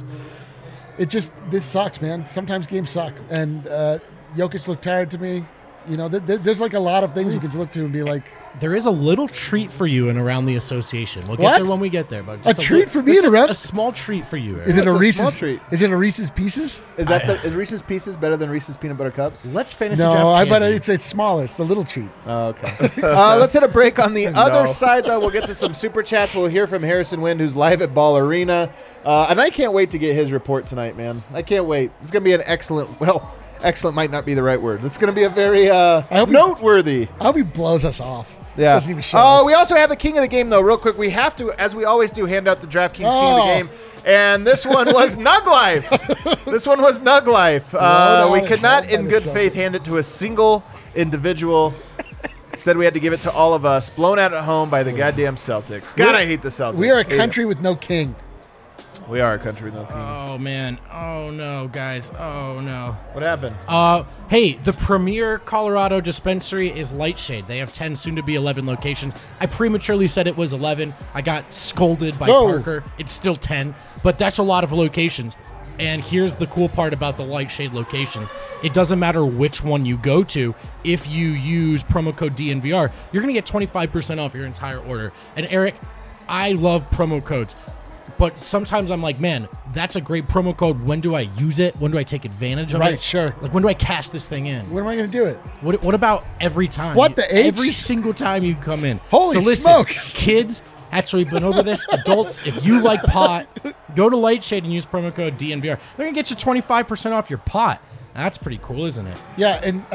C: This sucks, man. Sometimes games suck. And Jokic looked tired to me. You know, there's like a lot of things you could look to and be like,
D: There is a little treat for you in around the association. We'll get
C: What?
D: there when we get there. But
C: A treat for me in around-
D: a small treat for you. Eric.
C: is it a
A: It's a
C: Reese's
A: small treat.
C: Is it a Reese's Pieces?
A: Is Reese's Pieces better than Reese's Peanut Butter Cups?
D: Let's fantasy
C: No,
D: draft
C: I bet
D: candy.
C: it's smaller. It's the little treat.
A: Oh, okay. Let's hit a break on the other side, though. We'll get to some super chats. We'll hear from Harrison Wind, who's live at Ball Arena. And I can't wait to get his report tonight, man. I can't wait. It's going to be an excellent might not be the right word. It's going to be a very
C: hope he-
A: noteworthy.
C: I hope he blows us off.
A: Yeah.
C: Doesn't even show.
A: We also have the king of the game, though, real quick. We have to, as we always do, hand out the DraftKings king of the game. And this one was Nug Life. This one was Nug Life. We could not, in good faith, hand it to a single individual. Instead, we had to give it to all of us. Blown out at home by the goddamn Celtics. God, I hate the Celtics.
C: We are a
A: Hate it.
C: country with no king.
A: We are a country with no king.
D: Oh man! Oh no, guys! Oh no!
A: What happened?
D: Hey, the premier Colorado dispensary is Lightshade. They have 10, soon to be 11 locations. I prematurely said it was 11. I got scolded by
C: Whoa.
D: Parker. It's still 10, but that's a lot of locations. And here's the cool part about the Lightshade locations. It doesn't matter which one you go to. If you use promo code DNVR, you're going to get 25% off your entire order. And Eric, I love promo codes. But sometimes I'm like, man, that's a great promo code. When do I use it? When do I take advantage of it?
C: Right, sure.
D: Like, when do I cash this thing in?
C: When am I going to do it?
D: What about every time?
C: What the H?
D: Every single time you come in.
C: Holy
D: so listen,
C: smokes.
D: kids, actually been over this. Adults, if you like pot, go to Lightshade and use promo code DNVR. They're going to get you 25% off your pot. That's pretty cool, isn't it?
C: Yeah, and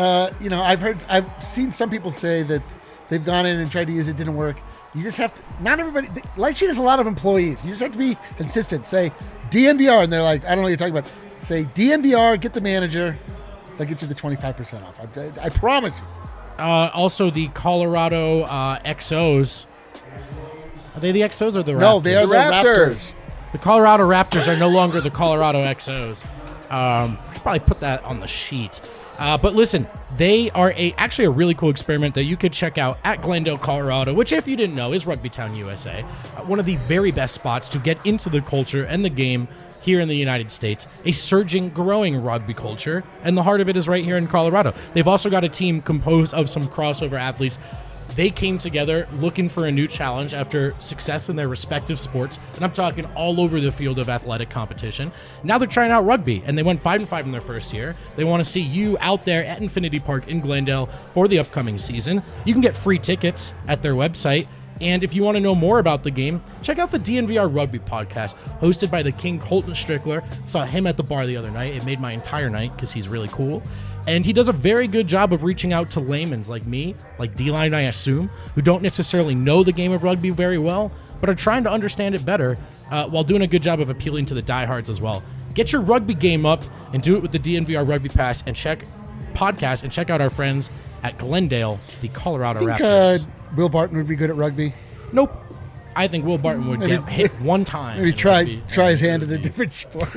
C: I've seen some people say that they've gone in and tried to use it, didn't work. You just have to. Not everybody. Lightshade has a lot of employees. You just have to be consistent. Say DNVR, and they're like, I don't know what you're talking about. Say DNVR, get the manager. They'll get you the 25% off. I promise you.
D: Also, the Colorado XOs. Are they the XOs or the Raptors?
C: No, they are the Raptors.
D: The Colorado Raptors are no longer the Colorado XOs. Should probably put that on the sheet. But listen, they are actually a really cool experiment that you could check out at Glendale, Colorado, which, if you didn't know, is Rugby Town, USA. One of the very best spots to get into the culture and the game here in the United States. A surging, growing rugby culture, and the heart of it is right here in Colorado. They've also got a team composed of some crossover athletes. They came together looking for a new challenge after success in their respective sports, and I'm talking all over the field of athletic competition. Now they're trying out rugby, and they went 5-5 in their first year. They want to see you out there at Infinity Park in Glendale for the upcoming season. You can get free tickets at their website, and if you want to know more about the game, check out the DNVR Rugby podcast, hosted by the King Colton Strickler. Saw him at the bar the other night. It made my entire night because he's really cool. And he does a very good job of reaching out to laymen like me, like D-Line, I assume, who don't necessarily know the game of rugby very well, but are trying to understand it better while doing a good job of appealing to the diehards as well. Get your rugby game up and do it with the DNVR Rugby Pass and check out our friends at Glendale, the Colorado
C: I think
D: Raptors.
C: Will Barton would be good at rugby.
D: Nope. I think Will Barton would get hit one time.
C: Maybe
D: in
C: try
D: rugby.
C: his hand at a different sport.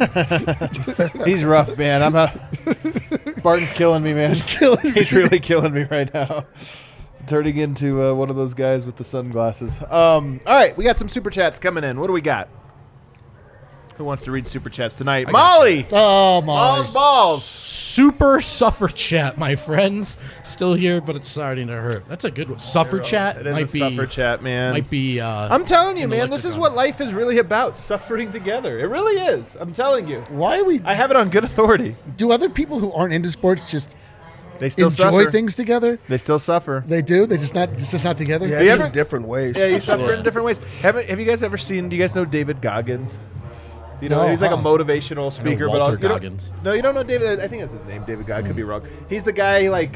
A: He's rough, man. Barton's killing me, man. He's really killing me right now. Turning into one of those guys with the sunglasses. All right, we got some super chats coming in. What do we got? Who wants to read super chats tonight? Molly!
C: Oh, my.
A: Balls!
D: Super suffer chat, my friends. Still here, but it's starting to hurt. That's a good one. Suffer chat
A: It is a suffer chat, man.
D: Might be.
A: I'm telling you,
D: in the
A: man, this is
D: lexicon.
A: what life is really about, suffering together. It really is. I'm telling you.
C: Why we
A: I have it on good authority.
C: do other people who aren't into sports just
A: They still
C: enjoy
A: suffer.
C: things together.
A: They still suffer.
C: They do. They just not. It's just not together.
B: Yeah,
A: you
B: in
A: ever-
B: different ways.
A: Yeah, you suffer in different ways. Have you guys ever seen? Do you guys know David Goggins? You know,
C: No,
A: he's like a
C: huh.
A: motivational speaker.
D: Walter
A: but you don't-
D: Goggins.
A: No, you don't know David. I think that's his name. David Goggins. Could be wrong. He's the guy like.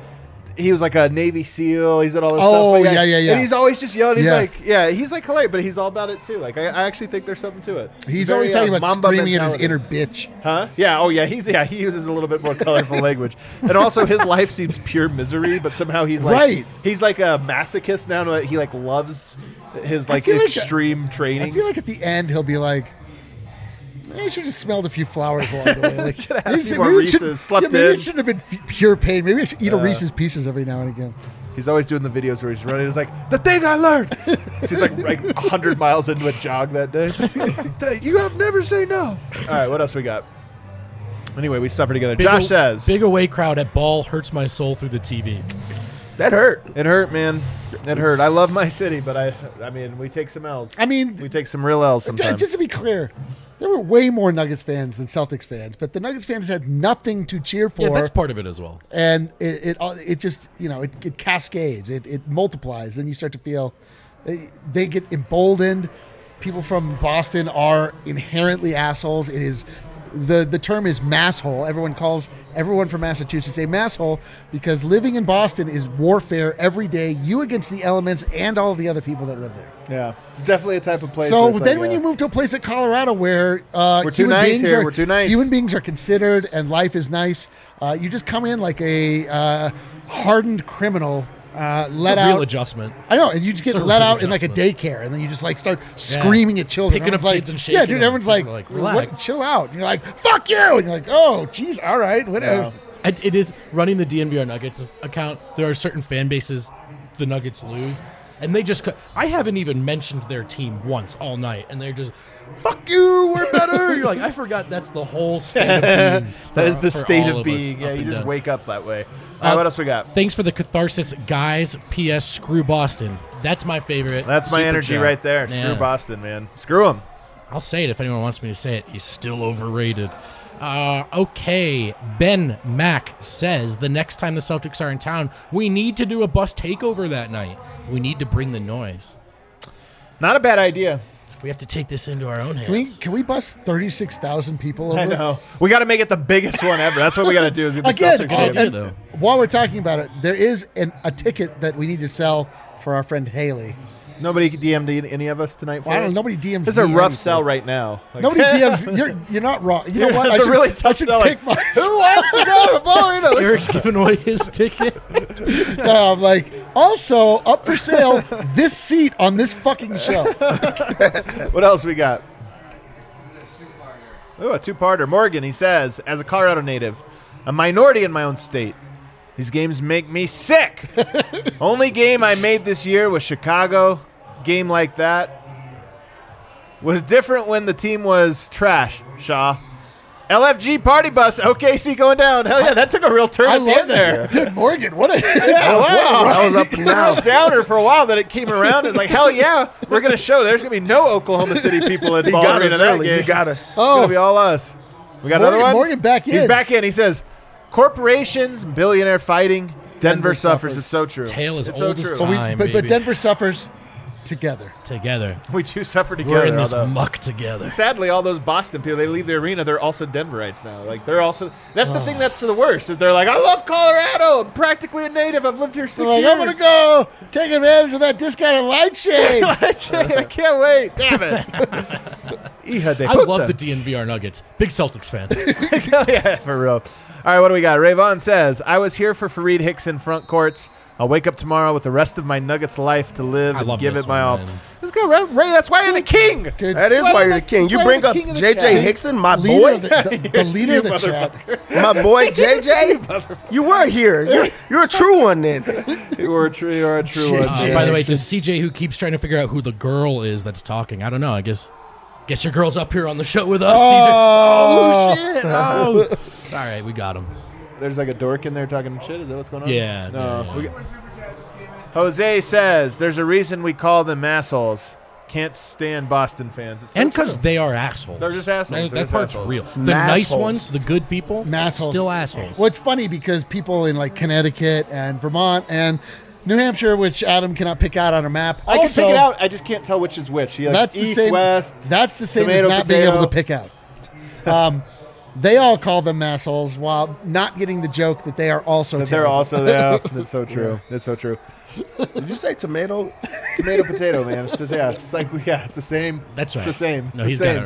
A: He was like a Navy SEAL. He's at all this
C: Oh,
A: stuff. But
C: yeah.
A: And he's always just yelling. He's
C: Yeah.
A: he's like hilarious, but he's all about it too. Like I actually think there's something to it.
C: He's
A: Very,
C: always talking about
A: Mamba
C: screaming at his
A: mentality.
C: inner bitch.
A: Huh? Yeah. Oh, yeah. He uses a little bit more colorful language, and also his life seems pure misery. But somehow he's like
C: Right.
A: he's like a masochist now. He like loves his like
C: feel like-
A: extreme training.
C: I feel like at the end he'll be like, "Maybe I should have smelled a few flowers along the way." Like,
A: Should have had a
C: maybe
A: few more
C: maybe it should-
A: Reese's, slept
C: maybe
A: in.
C: it shouldn't have been pure pain. Maybe I should eat a Reese's Pieces every now and again.
A: He's always doing the videos where he's running. He's like, the thing I learned. He's like 100 miles into a jog that day. You have never say no. All right, what else we got? Anyway, we suffer together. Josh says
D: big away crowd at ball hurts my soul through the TV.
B: That hurt.
A: it hurt, man. It hurt. I love my city, but I mean, we take some L's.
C: I mean,
A: We take some real L's sometimes.
C: just to be clear, there were way more Nuggets fans than Celtics fans, but the Nuggets fans had nothing to cheer for.
D: Yeah, that's part of it as well.
C: And it just, it cascades, it multiplies. Then you start to feel they get emboldened. People from Boston are inherently assholes. It is the term is masshole. Everyone calls everyone from Massachusetts a masshole because living in Boston is warfare every day. You against the elements and all of the other people that live there.
A: Yeah, it's definitely a type of place.
C: So
A: where it's
C: then,
A: like,
C: when you move to a place like Colorado, where we're
A: too nice here, we're too nice.
C: Human beings are considered, and life is nice. You just come in like a hardened criminal, let
D: It's a
C: out.
D: real adjustment.
C: I know, and you just get
D: It's a
C: let
D: real
C: out in like a
D: adjustment.
C: daycare, and then you just like start screaming at children.
D: Picking up
C: Everyone's
D: kids
C: like,
D: and shaking
C: yeah, dude.
D: them.
C: Everyone's like,
D: People are like,
C: "What?
D: relax."
C: Chill out." And you're like, "Fuck you!" And you're like, "Oh, geez, all right, whatever."
D: It is running the DNVR Nuggets account. There are certain fan bases the Nuggets lose, and they just. I haven't even mentioned their team once all night, and they're just, "Fuck you, we're better." You're like, I forgot that's the whole state of being.
A: that is the
D: for
A: state
D: all
A: of
D: us
A: being. Yeah,
D: up
A: you
D: and
A: just
D: down.
A: wake up that way. All right, what else we got?
D: Thanks for the catharsis, guys. P.S. Screw Boston. That's my favorite.
A: That's my
D: super
A: energy
D: chat.
A: right there.
D: Yeah.
A: Screw Boston, man. Screw him.
D: I'll say it if anyone wants me to say it. He's still overrated. Okay, Ben Mack says the next time the Celtics are in town, we need to do a bus takeover that night. We need to bring the noise.
A: Not a bad idea.
D: If we have to take this into our own hands.
C: Can we bus 36,000 people over?
A: I know. We got to make it the biggest one ever. That's what we got to do. Is get the
C: Again,
A: Celtics
D: idea,
A: game.
C: and
D: though.
C: while we're talking about it, there is a ticket that we need to sell for our friend Haley.
A: Nobody DM'd any of us tonight for
C: Well, I don't
A: it?
C: know. Nobody DM'd
A: This is a
C: me
A: rough
C: anything.
A: sell right now. Like,
C: Nobody DM'd. You're not wrong. You know what?
A: It's a really tough
C: I should
A: sell.
C: pick
A: Like,
C: my.
A: who wants to go to Bowling?
D: Eric's giving away his ticket.
C: I'm like, also up for sale this seat on this fucking show.
A: What else we got? Ooh, a two-parter. Morgan, he says, as a Colorado native, a minority in my own state, these games make me sick. Only game I made this year was Chicago. Game like that was different when the team was trash, Shaw. LFG party bus, OKC going down. Hell yeah, that took a real turn
C: I
A: at the
C: love
A: end there.
C: that, dude. Morgan, what a
A: Yeah, wow.
B: That was up and
A: It's a real
B: down.
A: downer for a while that it came around. It's like, hell yeah, we're going to show there's going to be no Oklahoma City people at
B: He
A: Ball
B: got
A: Arena
B: us
A: that
B: early.
A: game.
B: He got us.
A: It's going to be all us. We got another one?
C: Morgan back in.
A: He's back in. He says, corporations, billionaire fighting, Denver suffers. It's so true.
D: Tale as
A: It's
D: old
A: so
D: as
A: true.
D: time.
C: but
D: baby.
C: Denver suffers together.
D: Together.
A: We two suffer together.
D: We're in this
A: although-
D: muck together.
A: Sadly, all those Boston people, they leave the arena, they're also Denverites now. Like, they're also, that's the thing that's the worst. Is they're like, I love Colorado. I'm practically a native. I've lived here 6
C: They're like,
A: years.
C: I'm gonna go take advantage of that discounted light shade.
A: I can't wait. Damn it. Hija de
D: I
A: puta.
D: love the DNVR Nuggets. Big Celtics fan.
A: Yeah, for real. All right, what do we got? Rayvon says, I was here for Fareed Hickson front courts. I'll wake up tomorrow with the rest of my Nuggets life to live
D: I
A: and
D: love
A: give
D: this
A: it my all.
D: one, man.
A: Let's go, Ray. That's why you're the king.
C: Dude,
B: That is why you're the king. You
A: why
B: bring
A: you're
B: up
A: the king of the
B: JJ
A: chat.
B: Hickson, my
C: leader
B: boy.
C: of the leader of the chat.
B: My boy JJ. You were here. You're a true one then.
A: You are a true one.
D: By the way, to CJ, who keeps trying to figure out who the girl is that's talking, I don't know. I guess your girl's up here on the show with us, CJ. Oh, shit. Oh. All right, we got him.
A: There's like a dork in there talking shit. Is that what's going on?
D: Yeah,
A: No.
D: yeah.
A: We got- Jose says, there's a reason we call them assholes. Can't stand Boston fans. It's so
D: And because
A: true.
D: they are assholes.
A: They're just assholes. They're
D: That
A: just
D: part's
A: assholes.
D: real. The
B: Massholes.
D: nice ones, the good people,
C: Massholes.
D: still assholes.
C: Well, it's funny because people in like Connecticut and Vermont and New Hampshire, which Adam cannot pick out on a map.
A: I can
C: also,
A: pick it out. I just can't tell which is which. Like
C: That's the
A: east,
C: same.
A: west.
C: That's the same
A: tomato,
C: as not being
A: potato.
C: able to pick out. They all call them assholes while not getting the joke that they are also.
A: But they're
C: terrible.
A: also there. That's so true. That's so true.
B: Did you say tomato?
A: Tomato, potato, man. It's just it's like it's the same.
D: That's right.
A: It's the same. It's
D: No,
A: the
D: he's
A: same.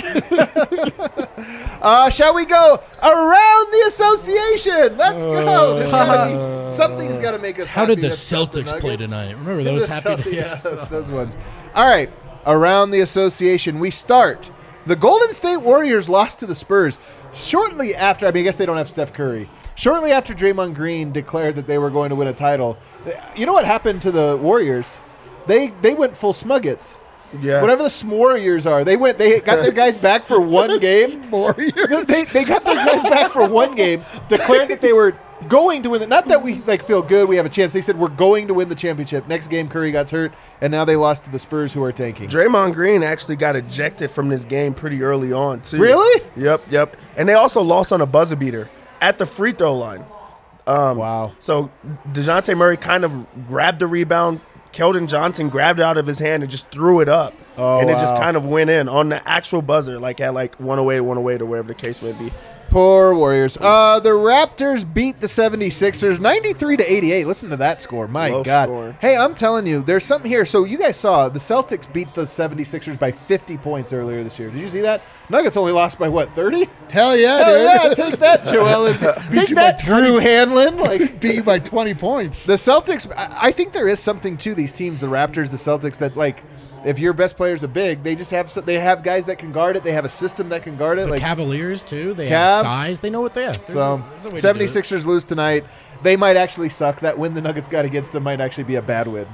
D: got it right.
A: Shall we go around the association? Let's go. There's gotta be, something's got to make us.
D: How
A: happy
D: did the
A: that's not the
D: Celtics play
A: Nuggets.
D: tonight? Remember those
A: The
D: happy
A: Celtics,
D: days?
A: yeah, those ones. All right, around the association, we start. The Golden State Warriors lost to the Spurs shortly after. I mean, I guess they don't have Steph Curry. Shortly after Draymond Green declared that they were going to win a title, you know what happened to the Warriors? They went full Smuggets.
B: Yeah.
A: Whatever the S'more are, they got their guys back for one game.
C: Warriors.
A: They got their guys back for one game, declared that they were going to win it. Not that we feel good, we have a chance. They said we're going to win the championship. Next game, Curry got hurt, and now they lost to the Spurs, who are tanking.
B: Draymond Green actually got ejected from this game pretty early on, too.
A: Really?
B: Yep. And they also lost on a buzzer beater at the free throw line.
A: Wow.
B: So DeJounte Murray kind of grabbed the rebound. Keldon Johnson grabbed it out of his hand and just threw it up.
A: Oh,
B: and it just
A: wow.
B: kind of went in on the actual buzzer, like at like 108 or wherever the case may be.
A: Poor Warriors. The Raptors beat the 76ers 93-88. Listen to that score. My
B: Low
A: God.
B: score.
A: Hey, I'm telling you, there's something here. So you guys saw the Celtics beat the 76ers by 50 points earlier this year. Did you see that? Nuggets only lost by what, 30?
C: Hell yeah,
A: Hell
C: dude.
A: yeah, take that, Joel. Take
C: you by
A: that, Drew Hanlon. Like
C: Beat you by 20 points.
A: the Celtics, I think there is something to these teams, the Raptors, the Celtics, that like if your best players are big, they just have guys that can guard it. They have a system that can guard it.
D: The
A: like
D: Cavaliers, too. They
A: Cavs.
D: have size. They know what they have.
A: so,
D: There's a way to do it.
A: 76ers lose tonight. They might actually suck. That win the Nuggets got against them might actually be a bad win.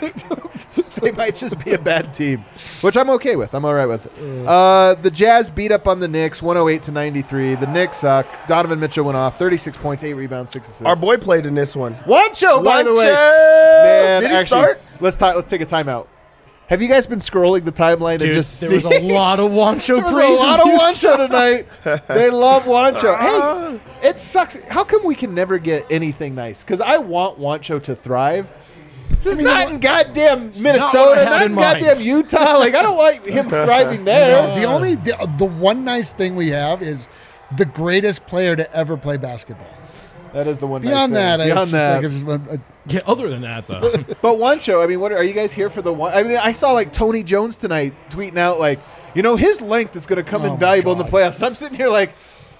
A: They might just be a bad team, which I'm okay with. I'm all right with. The Jazz beat up on the Knicks 108-93. The Knicks suck. Donovan Mitchell went off 36 points, 8 rebounds, 6 assists.
B: Our boy played in this one.
A: Wancho, by the way.
B: Wancho!
A: Man,
B: Did he
A: actually,
B: start?
A: let's take a timeout. Have you guys been scrolling the timeline
D: Dude,
A: and just
D: there was
A: see?
D: a lot of Wancho
A: There was
D: praise.
A: a lot of
D: in here.
A: Wancho tonight. They love Wancho. Hey, it sucks. How come we can never get anything nice? Because I want Wancho to thrive. Just not in goddamn Minnesota,
D: what I had
A: not
D: in
A: in
D: mind.
A: goddamn Utah. Like, I don't want him thriving there.
C: The one nice thing we have is the greatest player to ever play basketball.
A: That is the one.
C: Beyond
A: nice
C: that,
A: thing. Beyond
C: it's
A: that,
C: just like it's
D: Yeah, other than that, though.
A: but Wancho. I mean, what are you guys here for? I mean, I saw like Tony Jones tonight tweeting out like, his length is going to come
C: Oh, my
A: invaluable in the
C: God.
A: playoffs. And I'm sitting here like,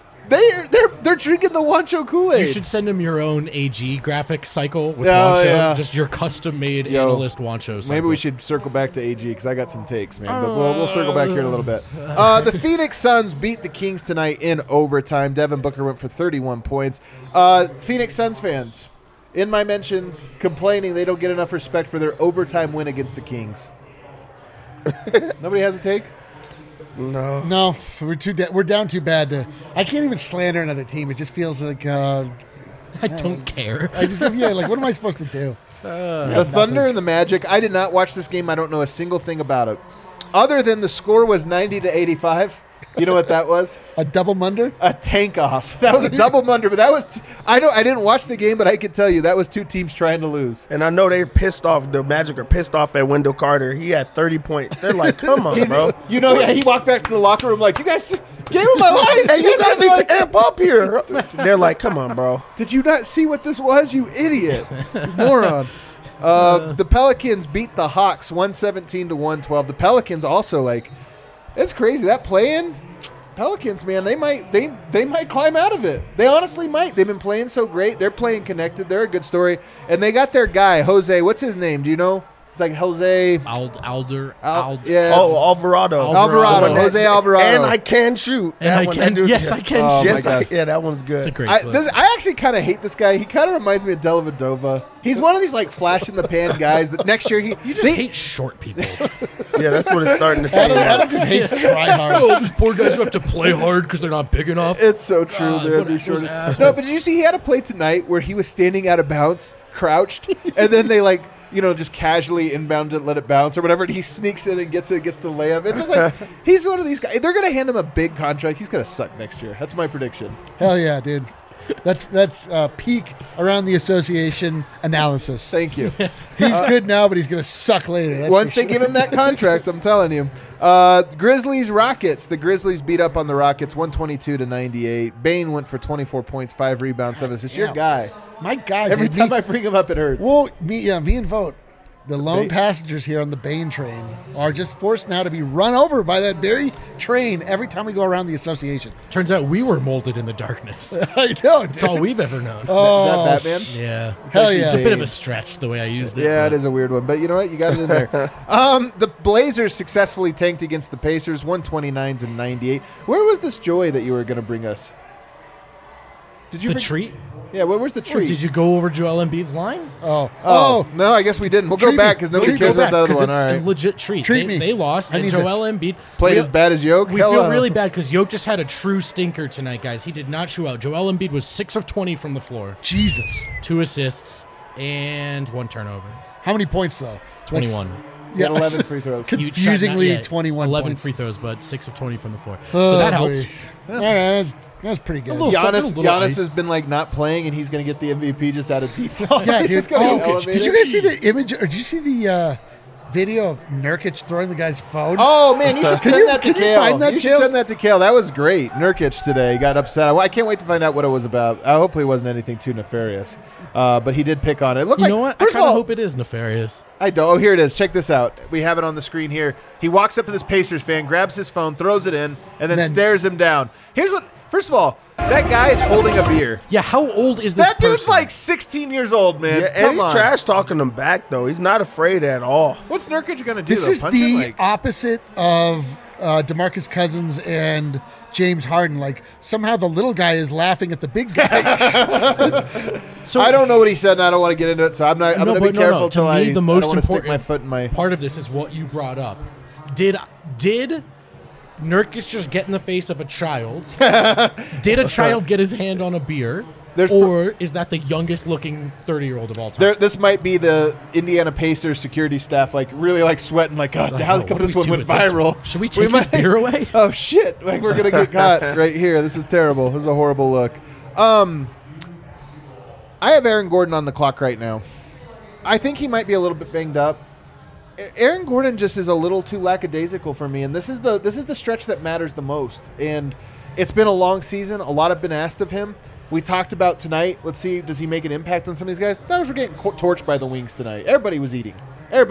A: they're drinking the Wancho Kool-Aid.
D: You should send him your own AG graphic cycle with
A: Oh,
D: Wancho.
A: yeah.
D: Just your custom-made
A: Yo,
D: analyst Wancho cycle.
A: Maybe we should circle back to AG because I got some takes, man. But we'll circle back here in a little bit. The Phoenix Suns beat the Kings tonight in overtime. Devin Booker went for 31 points. Phoenix Suns fans, in my mentions, complaining they don't get enough respect for their overtime win against the Kings. Nobody has a take?
C: no, we're down too bad. I can't even slander another team. It just feels like
D: I don't care.
C: I just like what am I supposed to do?
A: The Thunder and the Magic. I did not watch this game. I don't know a single thing about it. Other than the score was 90-85. You know what that was?
C: A double munder?
A: A tank off. That was a double munder, but that was I didn't watch the game, but I could tell you that was two teams trying to lose.
B: And I know they're pissed off. The Magic are pissed off at Wendell Carter. He had 30 points. They're like, come on, bro.
A: He walked back to the locker room like, you guys game of my life.
B: Hey, you guys
A: are
B: need
A: like,
B: to amp up here. They're like, come on, bro.
A: did you not see what this was, you idiot? You moron. The Pelicans beat the Hawks 117-112. The Pelicans also it's crazy. That play-in Pelicans, man, they might climb out of it. They honestly might. They've been playing so great. They're playing connected. They're a good story. And they got their guy, Jose. What's his name? Do you know? It's like Jose. Yes.
B: Oh, Alvarado.
A: Alvarado. Jose Alvarado.
B: And I can shoot.
D: And I can. Yes, I can.
A: Oh,
D: shoot.
A: my
B: Yes,
A: God.
B: yeah, that one's good.
D: It's a great
A: I
D: clip.
A: actually kind of hate this guy. He kind of reminds me of Dellavedova. He's one of these flash in the pan guys that next year
D: You just hate short people.
B: Yeah, that's what it's starting to say now.
C: Adam just hates try hard.
D: Oh, these poor guys who have to play hard because they're not big enough.
A: It's so true,
D: God,
A: man.
D: what
A: These
D: those
A: short-
D: assholes.
A: No, but did you see he had a play tonight where he was standing out of bounds, crouched, and then they just casually inbound it, let it bounce or whatever, and he sneaks in and gets the layup. It's just like he's one of these guys. They're going to hand him a big contract. He's going to suck next year. That's my prediction.
C: Hell yeah, dude. That's peak around the association analysis.
A: Thank you.
C: He's good now, but he's going to suck later. That's
A: Once
C: for
A: they
C: sure.
A: give him that contract, I'm telling you. Grizzlies Rockets. The Grizzlies beat up on the Rockets 122-98. Bane went for 24 points, 5 rebounds, 7 assists. Your
C: Yeah.
A: guy.
C: My God,
A: Every
C: dude,
A: time I bring him up, it hurts.
C: Well, me and Vote, the lone
A: Bane?
C: passengers here on the Bane train, are just forced now to be run over by that very train every time we go around the association.
D: Turns out we were molded in the darkness.
C: I know,
D: That's all we've ever known.
C: Oh,
A: Is that Batman?
D: Yeah.
C: Hell
A: actually
C: yeah.
D: It's a bit of a
A: Bane.
D: stretch the way I used it.
A: Yeah,
D: but
A: it is a weird one, but you know what? You got it in there. The Blazers successfully tanked against the Pacers, 129-98. Where was this joy that you were going to bring us? Did you
D: The
A: bring-
D: treat?
A: Yeah, where's the
D: Or
A: treat?
D: did you go over Joel Embiid's line?
C: Oh,
A: no, I guess we didn't. We'll go
C: Treat
A: back
C: me.
A: because nobody
C: Treat
A: cares
C: me.
A: about the other
D: 'cause
A: one.
D: it's
A: All
D: a
A: right.
D: legit treat.
C: Treat
D: they,
C: me.
D: they lost,
C: I
D: and
C: need
D: Joel Embiid
A: Played
D: we-
A: as bad as Yoke.
D: We
A: Hell,
D: feel really bad because Yoke just had a true stinker tonight, guys. He did not shoot out. Joel Embiid was 6 of 20 from the floor,
C: Jesus.
D: 2 assists, and 1 turnover.
C: How many points, though?
D: 21.
A: He had 11 free throws.
D: Huge shot,
C: Confusingly,
D: not yet.
C: 21
D: 11
C: points.
D: free throws, but 6 of 20 from the floor.
C: Oh,
D: So that helps.
C: boy. All right, that's pretty good.
D: little something, a little
A: Giannis
D: ice.
A: has been like not playing, and he's going to get the MVP just out of default.
C: Yeah,
A: He's
C: dude.
A: just gonna get
C: Oh,
A: elevated.
C: did you guys see the image, or did you see the video of Nurkic throwing the guy's phone?
A: Oh man, you should
C: Can
A: send
C: you-
A: that to
C: can you
A: Kale.
C: find that,
A: You should
C: Kale?
A: send that to Kale. That was great. Nurkic today got upset. I can't wait to find out what it was about. Hopefully, it wasn't anything too nefarious. But he did pick on it. It looked
D: You
A: like,
D: know what? I
A: First
D: kind
A: of
D: of
A: all,
D: hope it is nefarious.
A: I don't. Oh, here it is. Check this out. We have it on the screen here. He walks up to this Pacers fan, grabs his phone, throws it in, and then stares him down. Here's what. First of all, that guy is holding a beer.
D: Yeah, how old is this
A: That dude's
D: person?
A: like 16 years old, man.
B: Yeah, and
A: Come
B: he's
A: on.
B: trash talking him back though. He's not afraid at all.
A: What's Nurkic going to do?
C: This
A: though?
C: is
A: Punch him?
C: the
A: Like,
C: opposite of DeMarcus Cousins and James Harden. Like, somehow the little guy is laughing at the big guy.
D: So
A: I don't know what he said, and I don't want to get into it, so I'm not. I'm going to be careful
D: To
A: till
D: me,
A: I
D: the most
A: don't want to stick
D: important
A: my foot in my.
D: part of this is what you brought up. Did Nurkic just get in the face of a child? Did a child get his hand on a beer? Or is that the youngest looking 30-year-old of all time?
A: This might be the Indiana Pacers security staff, like really like sweating, like God, how
D: What
A: come
D: do
A: this
D: we
A: one
D: do
A: went
D: with this?
A: viral?
D: Should we take his beer away?
A: Oh shit! Like we're gonna get caught right here. This is terrible. This is a horrible look. I have Aaron Gordon on the clock right now. I think he might be a little bit banged up. Aaron Gordon just is a little too lackadaisical for me, and this is the stretch that matters the most. And it's been a long season. A lot have been asked of him. We talked about tonight. Let's see, does he make an impact on some of these guys? Those were getting torched by the wings tonight. Everybody was eating.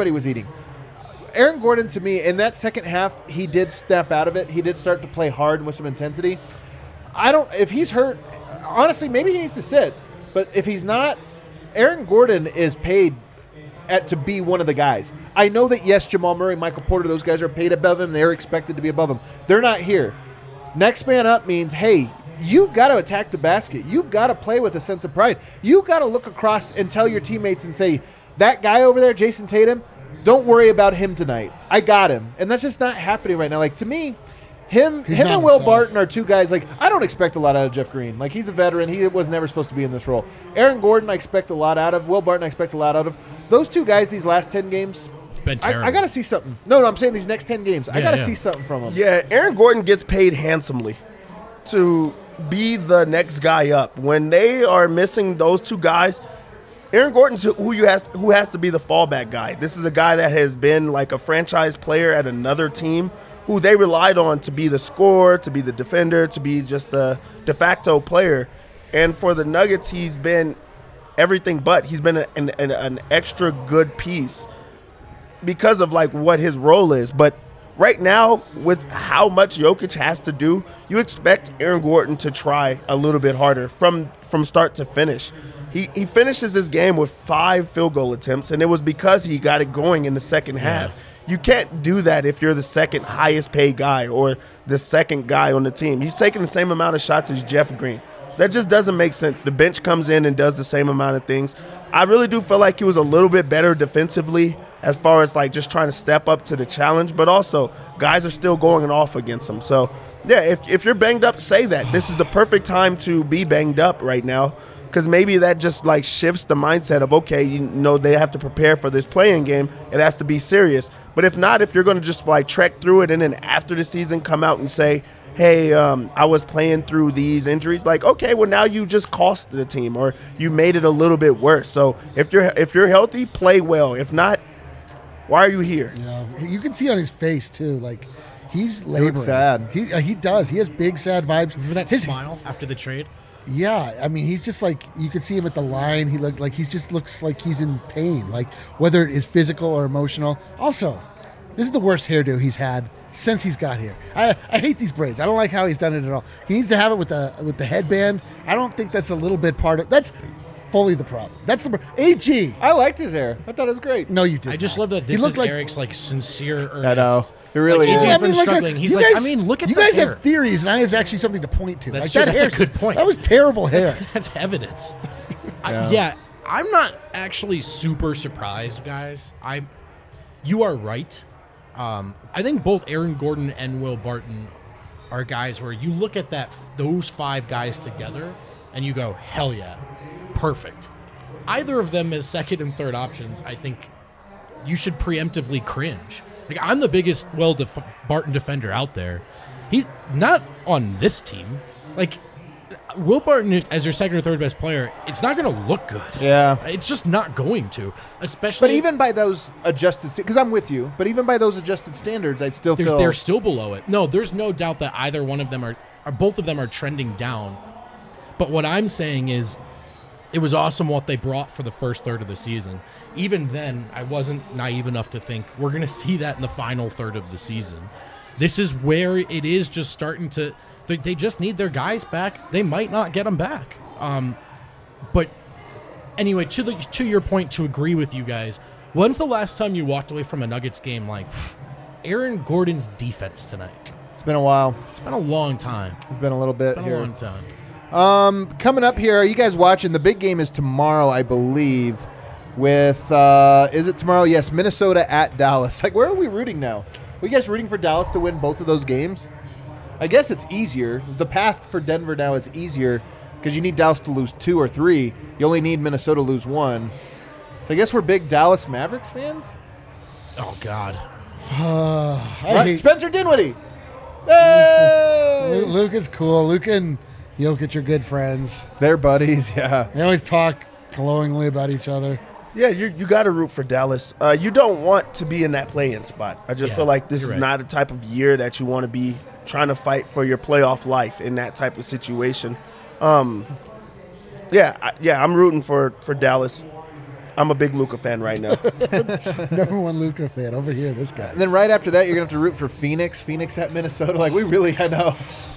A: Aaron Gordon, to me, in that second half, he did step out of it. He did start to play hard and with some intensity. If he's hurt, honestly, maybe he needs to sit. But if he's not, Aaron Gordon is paid to be one of the guys. I know that, yes, Jamal Murray, Michael Porter, those guys are paid above him. They're expected to be above him. They're not here. Next man up means, hey, you've got to attack the basket. You've got to play with a sense of pride. You've got to look across and tell your teammates and say, that guy over there, Jason Tatum, don't worry about him tonight. I got him. And that's just not happening right now. Like, to me, him
C: not
A: and Will
C: himself.
A: Barton are two guys. Like, I don't expect a lot out of Jeff Green. Like, he's a veteran. He was never supposed to be in this role. Aaron Gordon, I expect a lot out of. Will Barton, I expect a lot out of. Those two guys, these last 10 games,
D: It's been terrible.
A: I got to see something. No, I'm saying these next 10 games. I got to
D: yeah.
A: see something from them.
B: Yeah, Aaron Gordon gets paid handsomely to be the next guy up. When they are missing those two guys, Aaron Gordon's who has to be the fallback guy. This is a guy that has been like a franchise player at another team who they relied on to be the scorer, to be the defender, to be just the de facto player. And for the Nuggets, he's been everything but. He's been an extra good piece because of like what his role is. But right now, with how much Jokic has to do, you expect Aaron Gordon to try a little bit harder from start to finish. He finishes this game with 5 field goal attempts, and it was because he got it going in the second half. You can't do that if you're the second highest paid guy or the second guy on the team. He's taking the same amount of shots as Jeff Green. That just doesn't make sense. The bench comes in and does the same amount of things. I really do feel like he was a little bit better defensively as far as like just trying to step up to the challenge, but also guys are still going off against him. So, yeah, if you're banged up, say that. This is the perfect time to be banged up right now. because maybe that just like shifts the mindset of, okay, you know, they have to prepare for this playing game. It has to be serious. But if not, if you're going to just like trek through it and then after the season come out and say, hey, I was playing through these injuries, like, okay, well, now you just cost the team or you made it a little bit worse. So if you're healthy, play well. If not, why are you here?
C: Yeah, you can see on his face too, like he's laboring.
A: looks sad.
C: He does. He has big sad vibes.
D: Remember that
C: His-
D: smile after the trade?
C: Yeah, I mean, he's just like, you could see him at the line. He looked like looks like he's in pain, like whether it is physical or emotional. Also, this is the worst hairdo he's had since he's got here. I hate these braids. I don't like how he's done it at all. He needs to have it with the headband. I don't think that's a little bit part of that's fully the problem. That's the AG.
A: I liked his hair. I thought it was great.
C: No, you did.
D: I just
C: not.
D: love that
C: He
D: this
C: looks
D: is
C: like,
D: Eric's like sincere, earnest.
A: I know. It really
D: Like,
A: is.
D: AJ's
C: I
D: been
C: mean,
D: struggling. He's
C: you
D: like,
C: guys-
D: I mean, look at
C: you
D: the
C: guys
D: hair.
C: have theories, and I have actually something to point to.
D: That's
C: like,
D: true.
C: that
D: That's a
C: hair's-
D: good point.
C: That was terrible hair.
D: That's evidence.
A: Yeah.
D: Yeah, I'm not actually super surprised, guys. You are right. I think both Aaron Gordon and Will Barton are guys where you look at those 5 guys together and you go, hell yeah, perfect. Either of them as second and third options, I think you should preemptively cringe. Like, I'm the biggest Barton defender out there. He's not on this team. Like, Will Barton as your second or third best player, it's not going to look good.
A: Yeah.
D: It's just not going to. Especially,
A: But even by those adjusted, because I'm with you, but even by those adjusted standards, I still feel
D: they're still below it. No, there's no doubt that either one of them or both of them are trending down. But what I'm saying is, it was awesome what they brought for the first third of the season. Even then, I wasn't naive enough to think we're going to see that in the final third of the season. This is where it is just starting to. They just need their guys back. They might not get them back. But anyway, to your point, to agree with you guys, when's the last time you walked away from a Nuggets game like Aaron Gordon's defense tonight?
A: it's been a while.
D: It's been a long time.
A: It's been a little bit
D: Been
A: here.
D: a long time.
A: Coming up here, are you guys watching? The big game is tomorrow, I believe. With is it tomorrow? Yes, Minnesota at Dallas. Like, where are we rooting now? Are you guys rooting for Dallas to win both of those games? I guess it's easier. The path for Denver now is easier because you need Dallas to lose 2 or 3. You only need Minnesota to lose 1. So I guess we're big Dallas Mavericks fans.
D: Oh God.
C: I hate
A: Spencer Dinwiddie. Hey!
C: Luke is cool. Luke and Jokic are good friends.
A: They're buddies, yeah.
C: They always talk glowingly about each other.
B: Yeah, you got to root for Dallas. You don't want to be in that play-in spot. I just
D: Yeah,
B: feel like this
D: you're
B: is
D: right.
B: not a type of year that you want to be trying to fight for your playoff life in that type of situation. I'm rooting for Dallas. I'm a big Luka fan right now.
C: Number 1 Luka fan over here. This guy.
A: And then right after that, you're going to have to root for Phoenix. Phoenix at Minnesota. Like, we really, I know.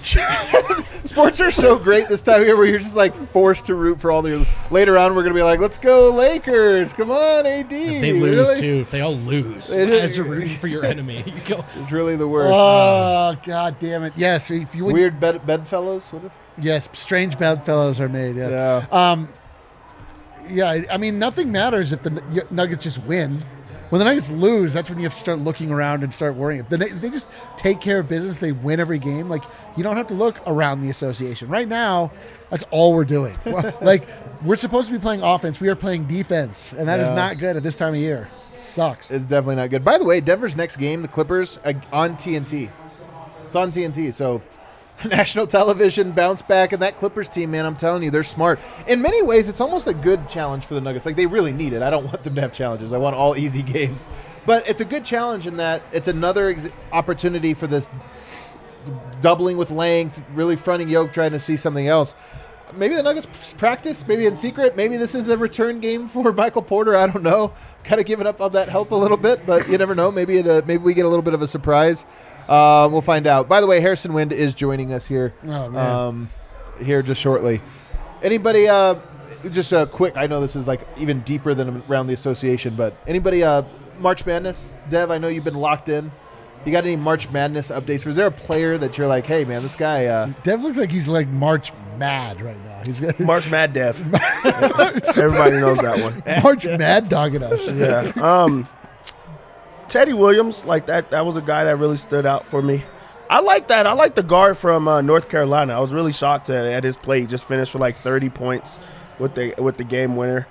A: Sports are so great this time of year where you're just, like, forced to root for all the... Later on, we're going to be like, let's go Lakers. Come on, AD.
D: If they lose
A: Really?
D: too, if they all lose
A: It is-
D: as you're rooting for your enemy, you go.
A: It's really the worst.
C: Oh, God damn it. Yes. If you would,
A: Weird bedfellows? What is
C: yes, strange bedfellows are made. Yeah.
A: Yeah.
C: Yeah, I mean, nothing matters if the Nuggets just win. When the Nuggets lose, that's when you have to start looking around and start worrying. If they just take care of business, they win every game. Like, you don't have to look around the association. Right now, that's all we're doing. Like, we're supposed to be playing offense. We are playing defense, and that is
A: Yeah.
C: not good at this time of year. Sucks.
A: It's definitely not good. By the way, Denver's next game, the Clippers, on TNT. It's on TNT, so national television bounce back, and that Clippers team, man, I'm telling you, they're smart. In many ways, it's almost a good challenge for the Nuggets. Like, they really need it. I don't want them to have challenges. I want all easy games. But it's a good challenge in that it's another opportunity for this doubling with length, really fronting yoke, trying to see something else. Maybe the Nuggets practice, maybe in secret. Maybe this is a return game for Michael Porter. I don't know. Kind of giving up on that help a little bit, but you never know. Maybe we get a little bit of a surprise. We'll find out. By the way, Harrison Wind is joining us here.
C: Oh, man.
A: Here just shortly. Anybody? Just a quick. I know this is like even deeper than around the association, but anybody? March Madness, Dev. I know you've been locked in. You got any March Madness updates? Was there a player that you're like, hey man, this guy?
C: Dev looks like he's like March mad right now. He's got
B: March Mad Dev. Everybody knows that one.
C: March mad dogging us.
B: Yeah. Teddy Williams, like that was a guy that really stood out for me. I like that. I like the guard from North Carolina. I was really shocked at his play. He just finished for like 30 points. with the game winner.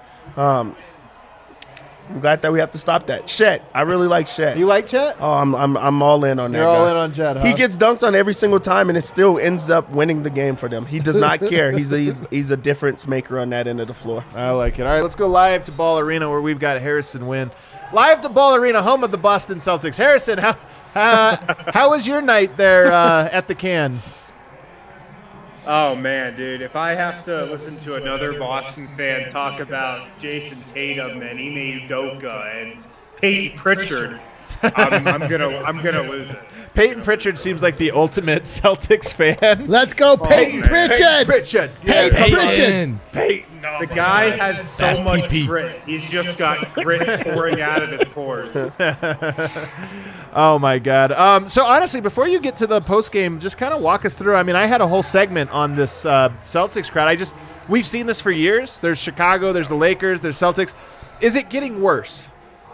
B: I'm glad that we have to stop that. Chet, I really like Chet.
A: You like Chet?
B: Oh, I'm all in on that.
A: You're all
B: guy.
A: in on Chet, huh?
B: He gets dunked on every single time, and it still ends up winning the game for them. He does not care. He's a difference maker on that end of the floor.
A: I like it. All right, let's go live to Ball Arena where we've got Harrison Wynn. Live to Ball Arena, home of the Boston Celtics. Harrison, how was your night there at the Can?
E: Oh, man, dude. If I have to listen to another Boston fan talk about Jason Tatum and Ime Udoka and Peyton Pritchard, I'm gonna lose it.
A: Peyton Pritchard seems like the ultimate Celtics fan.
C: Let's go, Peyton
E: man.
C: Pritchard.
A: Pritchard.
C: Peyton
A: Yeah.
C: Pritchard.
A: Peyton.
E: The guy has so
D: Fast
E: much
D: PP.
E: grit. He's just got grit pouring out of his pores.
A: Oh, my God. So, honestly, before you get to the postgame, just kind of walk us through. I mean, I had a whole segment on this Celtics crowd. We've seen this for years. There's Chicago, there's the Lakers, there's Celtics. Is it getting worse?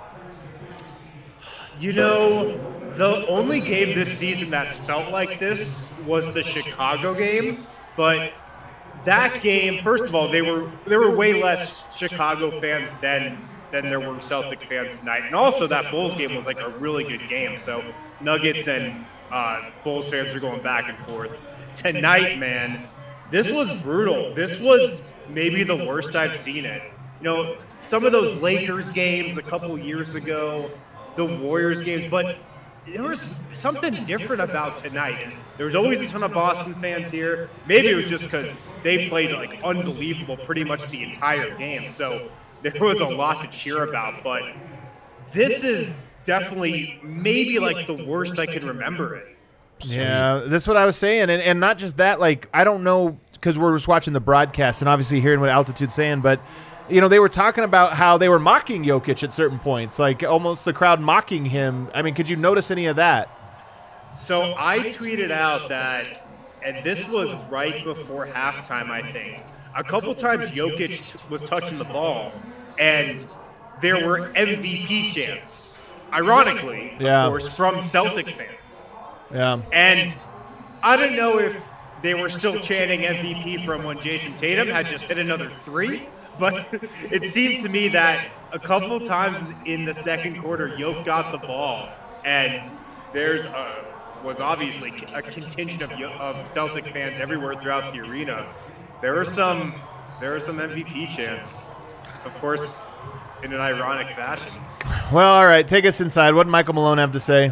E: You know, the only game this season that's felt like this was the Chicago game, but that game, first of all, there were way less Chicago fans than there were Celtic fans tonight, and also that Bulls game was like a really good game. So Nuggets and Bulls fans are going back and forth. Tonight, man, this was brutal. This was maybe the worst I've seen it. You know, some of those Lakers games a couple years ago, the Warriors games, but there was something different about tonight. There was always a ton of Boston fans here. Maybe it was just because they played like unbelievable pretty much the entire game. So there was a lot to cheer about, but this is definitely maybe like the worst I can remember it.
A: Yeah, that's what I was saying. And not just that, like, I don't know, because we're just watching the broadcast and obviously hearing what Altitude's saying, but, you know, they were talking about how they were mocking Jokic at certain points, like almost the crowd mocking him. I mean, could you notice any of that?
E: So I tweeted out that, and this was right before halftime, I think, a couple times Jokic was touching the ball, and there were MVP chants, ironically,
A: Yeah.
E: of course, from Celtic fans.
A: Yeah.
E: And I don't know if they were still chanting MVP from when Jason Tatum had just hit another three, but it seemed to me that a couple times in the second quarter, Jokic got the ball, and was obviously a contingent of Celtic fans everywhere throughout the arena. There were some MVP chants, of course, in an ironic fashion.
A: Well, all right, take us inside. What did Michael Malone have to say?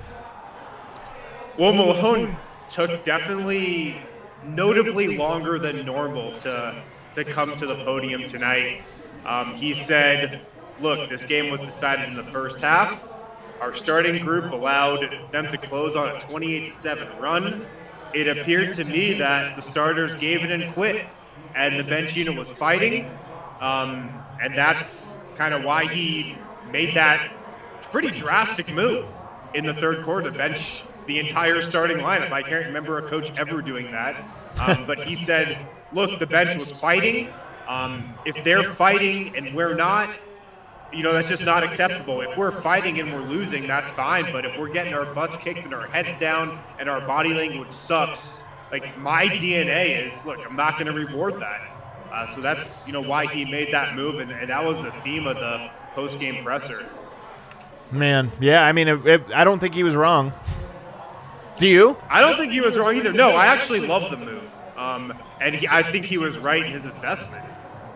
E: Well, Malone took definitely notably longer than normal to come to the podium tonight. He said, look, this game was decided in the first half. Our starting group allowed them to close on a 28-7 run. It appeared to me that the starters gave it and quit, and the bench unit was fighting. And that's kind of why he made that pretty drastic move in the third quarter to bench the entire starting lineup. I can't remember a coach ever doing that. But he said, look, the bench was fighting. If they're fighting and we're not, you know, that's just not acceptable. If we're fighting and we're losing, that's fine. But if we're getting our butts kicked and our heads down and our body language sucks, like my DNA is, look, I'm not going to reward that. So that's, you know, why he made that move. And that was the theme of the post-game presser.
A: Man, yeah, I mean, I don't think he was wrong. Do you?
E: I don't think he was wrong either. No, I actually love the move. And I think he was right in his assessment.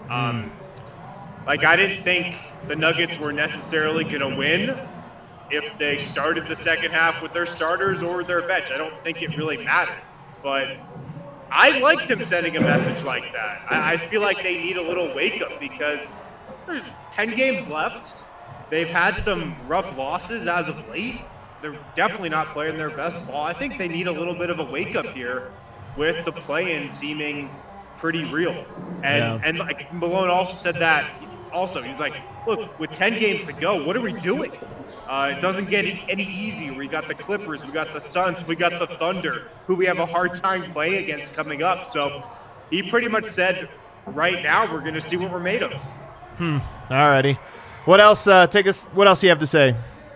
E: Like, I didn't think the Nuggets were necessarily going to win if they started the second half with their starters or their bench. I don't think it really mattered. But I liked him sending a message like that. I feel like they need a little wake-up because there's 10 games left. They've had some rough losses as of late. They're definitely not playing their best ball. I think they need a little bit of a wake-up here with the play-in seeming pretty real. And like Malone also said that also. He's like, look, with 10 games to go, what are we doing? It doesn't get any easier. We got the Clippers, we got the Suns, we got the Thunder, who we have a hard time playing against coming up. So he pretty much said, right now, we're going to see what we're made of.
A: All righty. What else? What else do you have to say?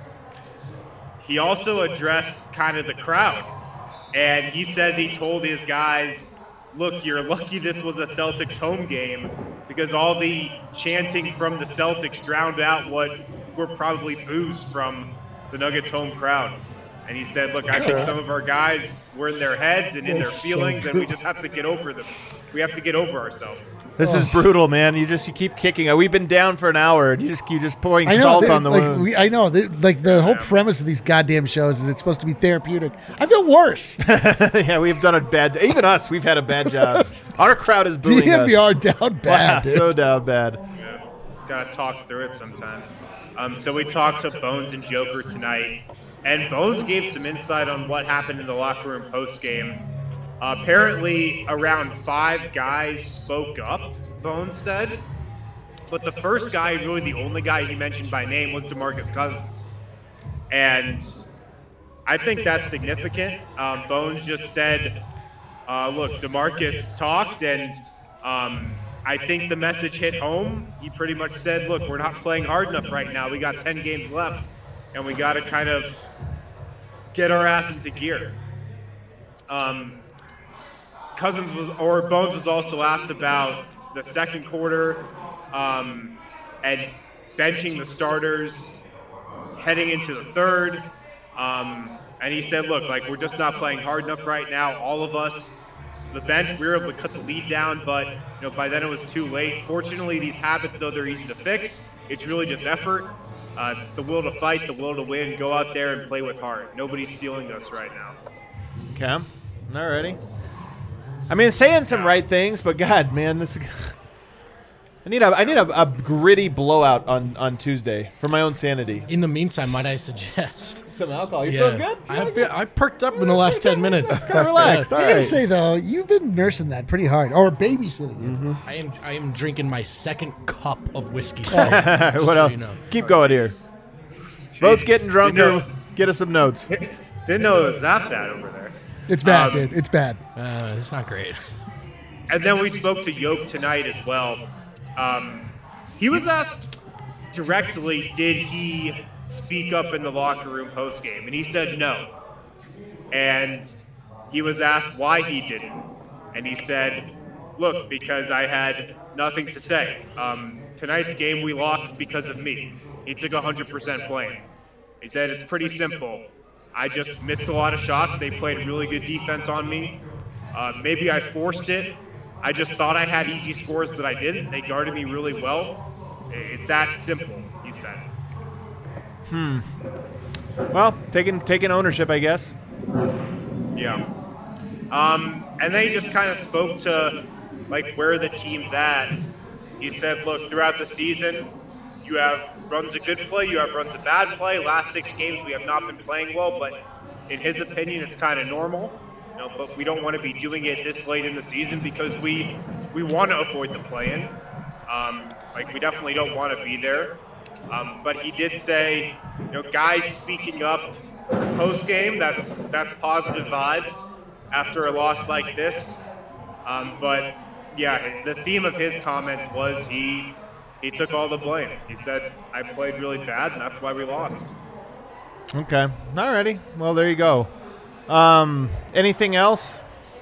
E: He also addressed kind of the crowd. And he says he told his guys, look, you're lucky this was a Celtics home game because all the chanting from the Celtics drowned out what were probably boos from the Nuggets home crowd. And he said, look, I think some of our guys were in their heads and in their feelings, and we just have to get over them. We have to get over ourselves.
A: This is brutal, man. You keep kicking. We've been down for an hour, and you just pouring salt on the wound.
C: I know. The whole premise of these goddamn shows is it's supposed to be therapeutic. I feel worse.
A: Yeah, we've done a bad. Even us, we've had a bad job. Our crowd is booing us.
C: DNVR down bad.
A: Wow,
C: dude.
A: so down bad.
E: Yeah, just gotta talk through it sometimes. So we talked to Bones and Joker tonight, and Bones gave some insight on what happened in the locker room post game. Apparently, around 5 guys spoke up, Bones said. But the first guy, really the only guy he mentioned by name, was DeMarcus Cousins. And I think that's significant. Bones just said, look, DeMarcus talked, and I think the message hit home. He pretty much said, look, we're not playing hard enough right now. We got 10 games left, and we got to kind of get our ass into gear. Bones was also asked about the second quarter and benching the starters heading into the third. And he said, look, like, we're just not playing hard enough right now. All of us, the bench, we were able to cut the lead down, but by then it was too late. Fortunately, these habits, though, they're easy to fix. It's really just effort. It's the will to fight, the will to win. Go out there and play with heart. Nobody's stealing us right now.
A: Okay. Alrighty. I mean, saying some right things, but God, man, this. I need a gritty blowout on Tuesday for my own sanity.
D: In the meantime, might I suggest
A: Some alcohol. You feel good?
D: I perked up in the last 10 minutes.
A: Kind of relaxed. All
C: I gotta
A: right.
C: say though, you've been nursing that pretty hard, or babysitting it.
A: Mm-hmm.
D: I am drinking my second cup of whiskey. Just
A: What
D: so
A: else?
D: you know.
A: Keep going here. Both getting drunker. Get us some notes.
E: Didn't know it was that bad over there.
C: It's bad, dude. It's bad.
D: It's not great.
E: And then we spoke to Yoke tonight as well. He was asked directly, did he speak up in the locker room postgame? And he said no. And he was asked why he didn't. And he said, look, because I had nothing to say. Tonight's game we lost because of me. He took 100% blame. He said, it's pretty simple. I just missed a lot of shots. They played really good defense on me. Maybe I forced it. I just thought I had easy scores, but I didn't. They guarded me really well. It's that simple, he said.
A: Well, taking ownership, I guess.
E: Yeah. And they just kind of spoke to, like, where the team's at. He said, look, throughout the season, you have runs of good play, you have runs of bad play. Last 6 games, we have not been playing well, but in his opinion, it's kind of normal. But we don't want to be doing it this late in the season because we want to avoid the play-in. We definitely don't want to be there. But he did say, guys speaking up post-game, that's positive vibes after a loss like this. But yeah, the theme of his comments was he took all the blame. He said, I played really bad, and that's why we lost.
A: Okay. Alrighty. Well, there you go. Anything else?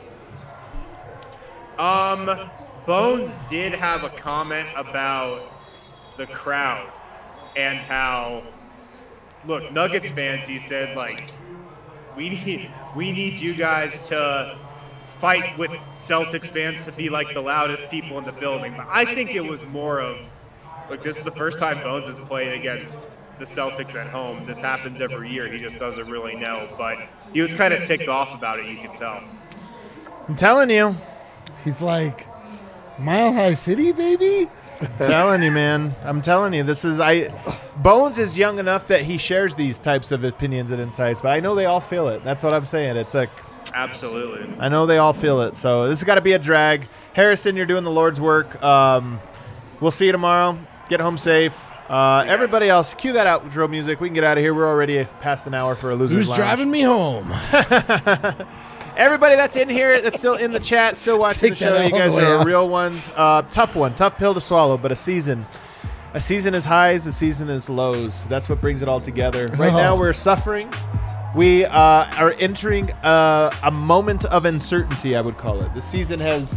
E: Bones did have a comment about the crowd and how, look, Nuggets fans, he said, like, we need you guys to fight with Celtics fans to be like the loudest people in the building. But I think it was more of, like, this is the first time Bones has played against the Celtics at home. This happens every year. He just doesn't really know. But he was kind of ticked off about it, you can tell.
A: I'm telling you.
C: He's like, Mile High City, baby?
A: Telling you, man. I'm telling you. Bones is young enough that he shares these types of opinions and insights, but I know they all feel it. That's what I'm saying. It's like,
E: absolutely.
A: I know they all feel it. So this has got to be a drag. Harrison, you're doing the Lord's work. We'll see you tomorrow. Get home safe. Everybody else, cue that outro music. We can get out of here. We're already past an hour for a Loser's
D: Who's
A: Lounge.
D: driving me home?
A: Everybody that's in here, that's still in the chat, still watching the show, you guys are real ones. Tough one, tough pill to swallow, but a season is highs, a season is lows. That's what brings it all together. Right now we're suffering. We are entering a moment of uncertainty, I would call it. The season has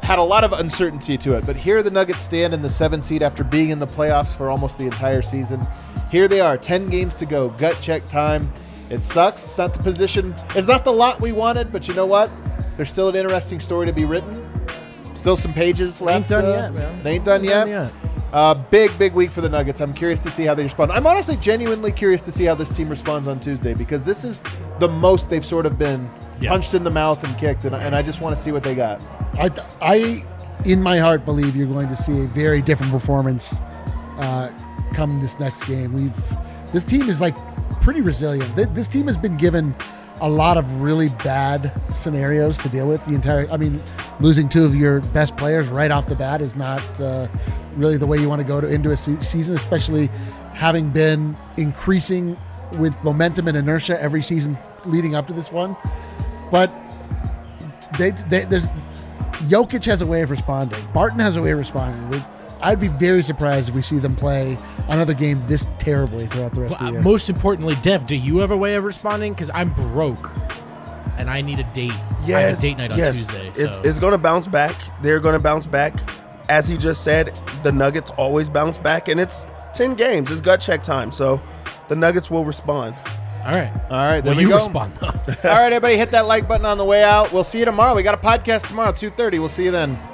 A: had a lot of uncertainty to it. But here the Nuggets stand in the 7th seed after being in the playoffs for almost the entire season. Here they are, 10 games to go, gut check time. It sucks. It's not the position. It's not the lot we wanted, but you know what? There's still an interesting story to be written. Still some pages left.
D: Ain't done yet, man.
A: Ain't done yet. Big week for the Nuggets. I'm curious to see how they respond. I'm honestly genuinely curious to see how this team responds on Tuesday, because this is the most they've sort of been punched in the mouth and kicked, and I just want to see what they got.
C: I, in my heart, believe you're going to see a very different performance come this next game. This team is like pretty resilient. This team has been given a lot of really bad scenarios to deal with. Losing 2 of your best players right off the bat is not really the way you want to go into a season, especially having been increasing with momentum and inertia every season leading up to this one. But there's Jokic has a way of responding. Barton has a way of responding. I'd be very surprised if we see them play another game this terribly throughout the rest of the year.
D: Most importantly, Dev, do you have a way of responding? Because I'm broke, and I need a date. I have a date night on Tuesday. So.
B: It's going to bounce back. They're going to bounce back. As he just said, the Nuggets always bounce back, and it's 10 games. It's gut check time, so the Nuggets will respond.
D: All right.
A: There
D: you
A: we go.
D: Respond, though.
A: All right, everybody, hit that like button on the way out. We'll see you tomorrow. We got a podcast tomorrow, 2:30. We'll see you then.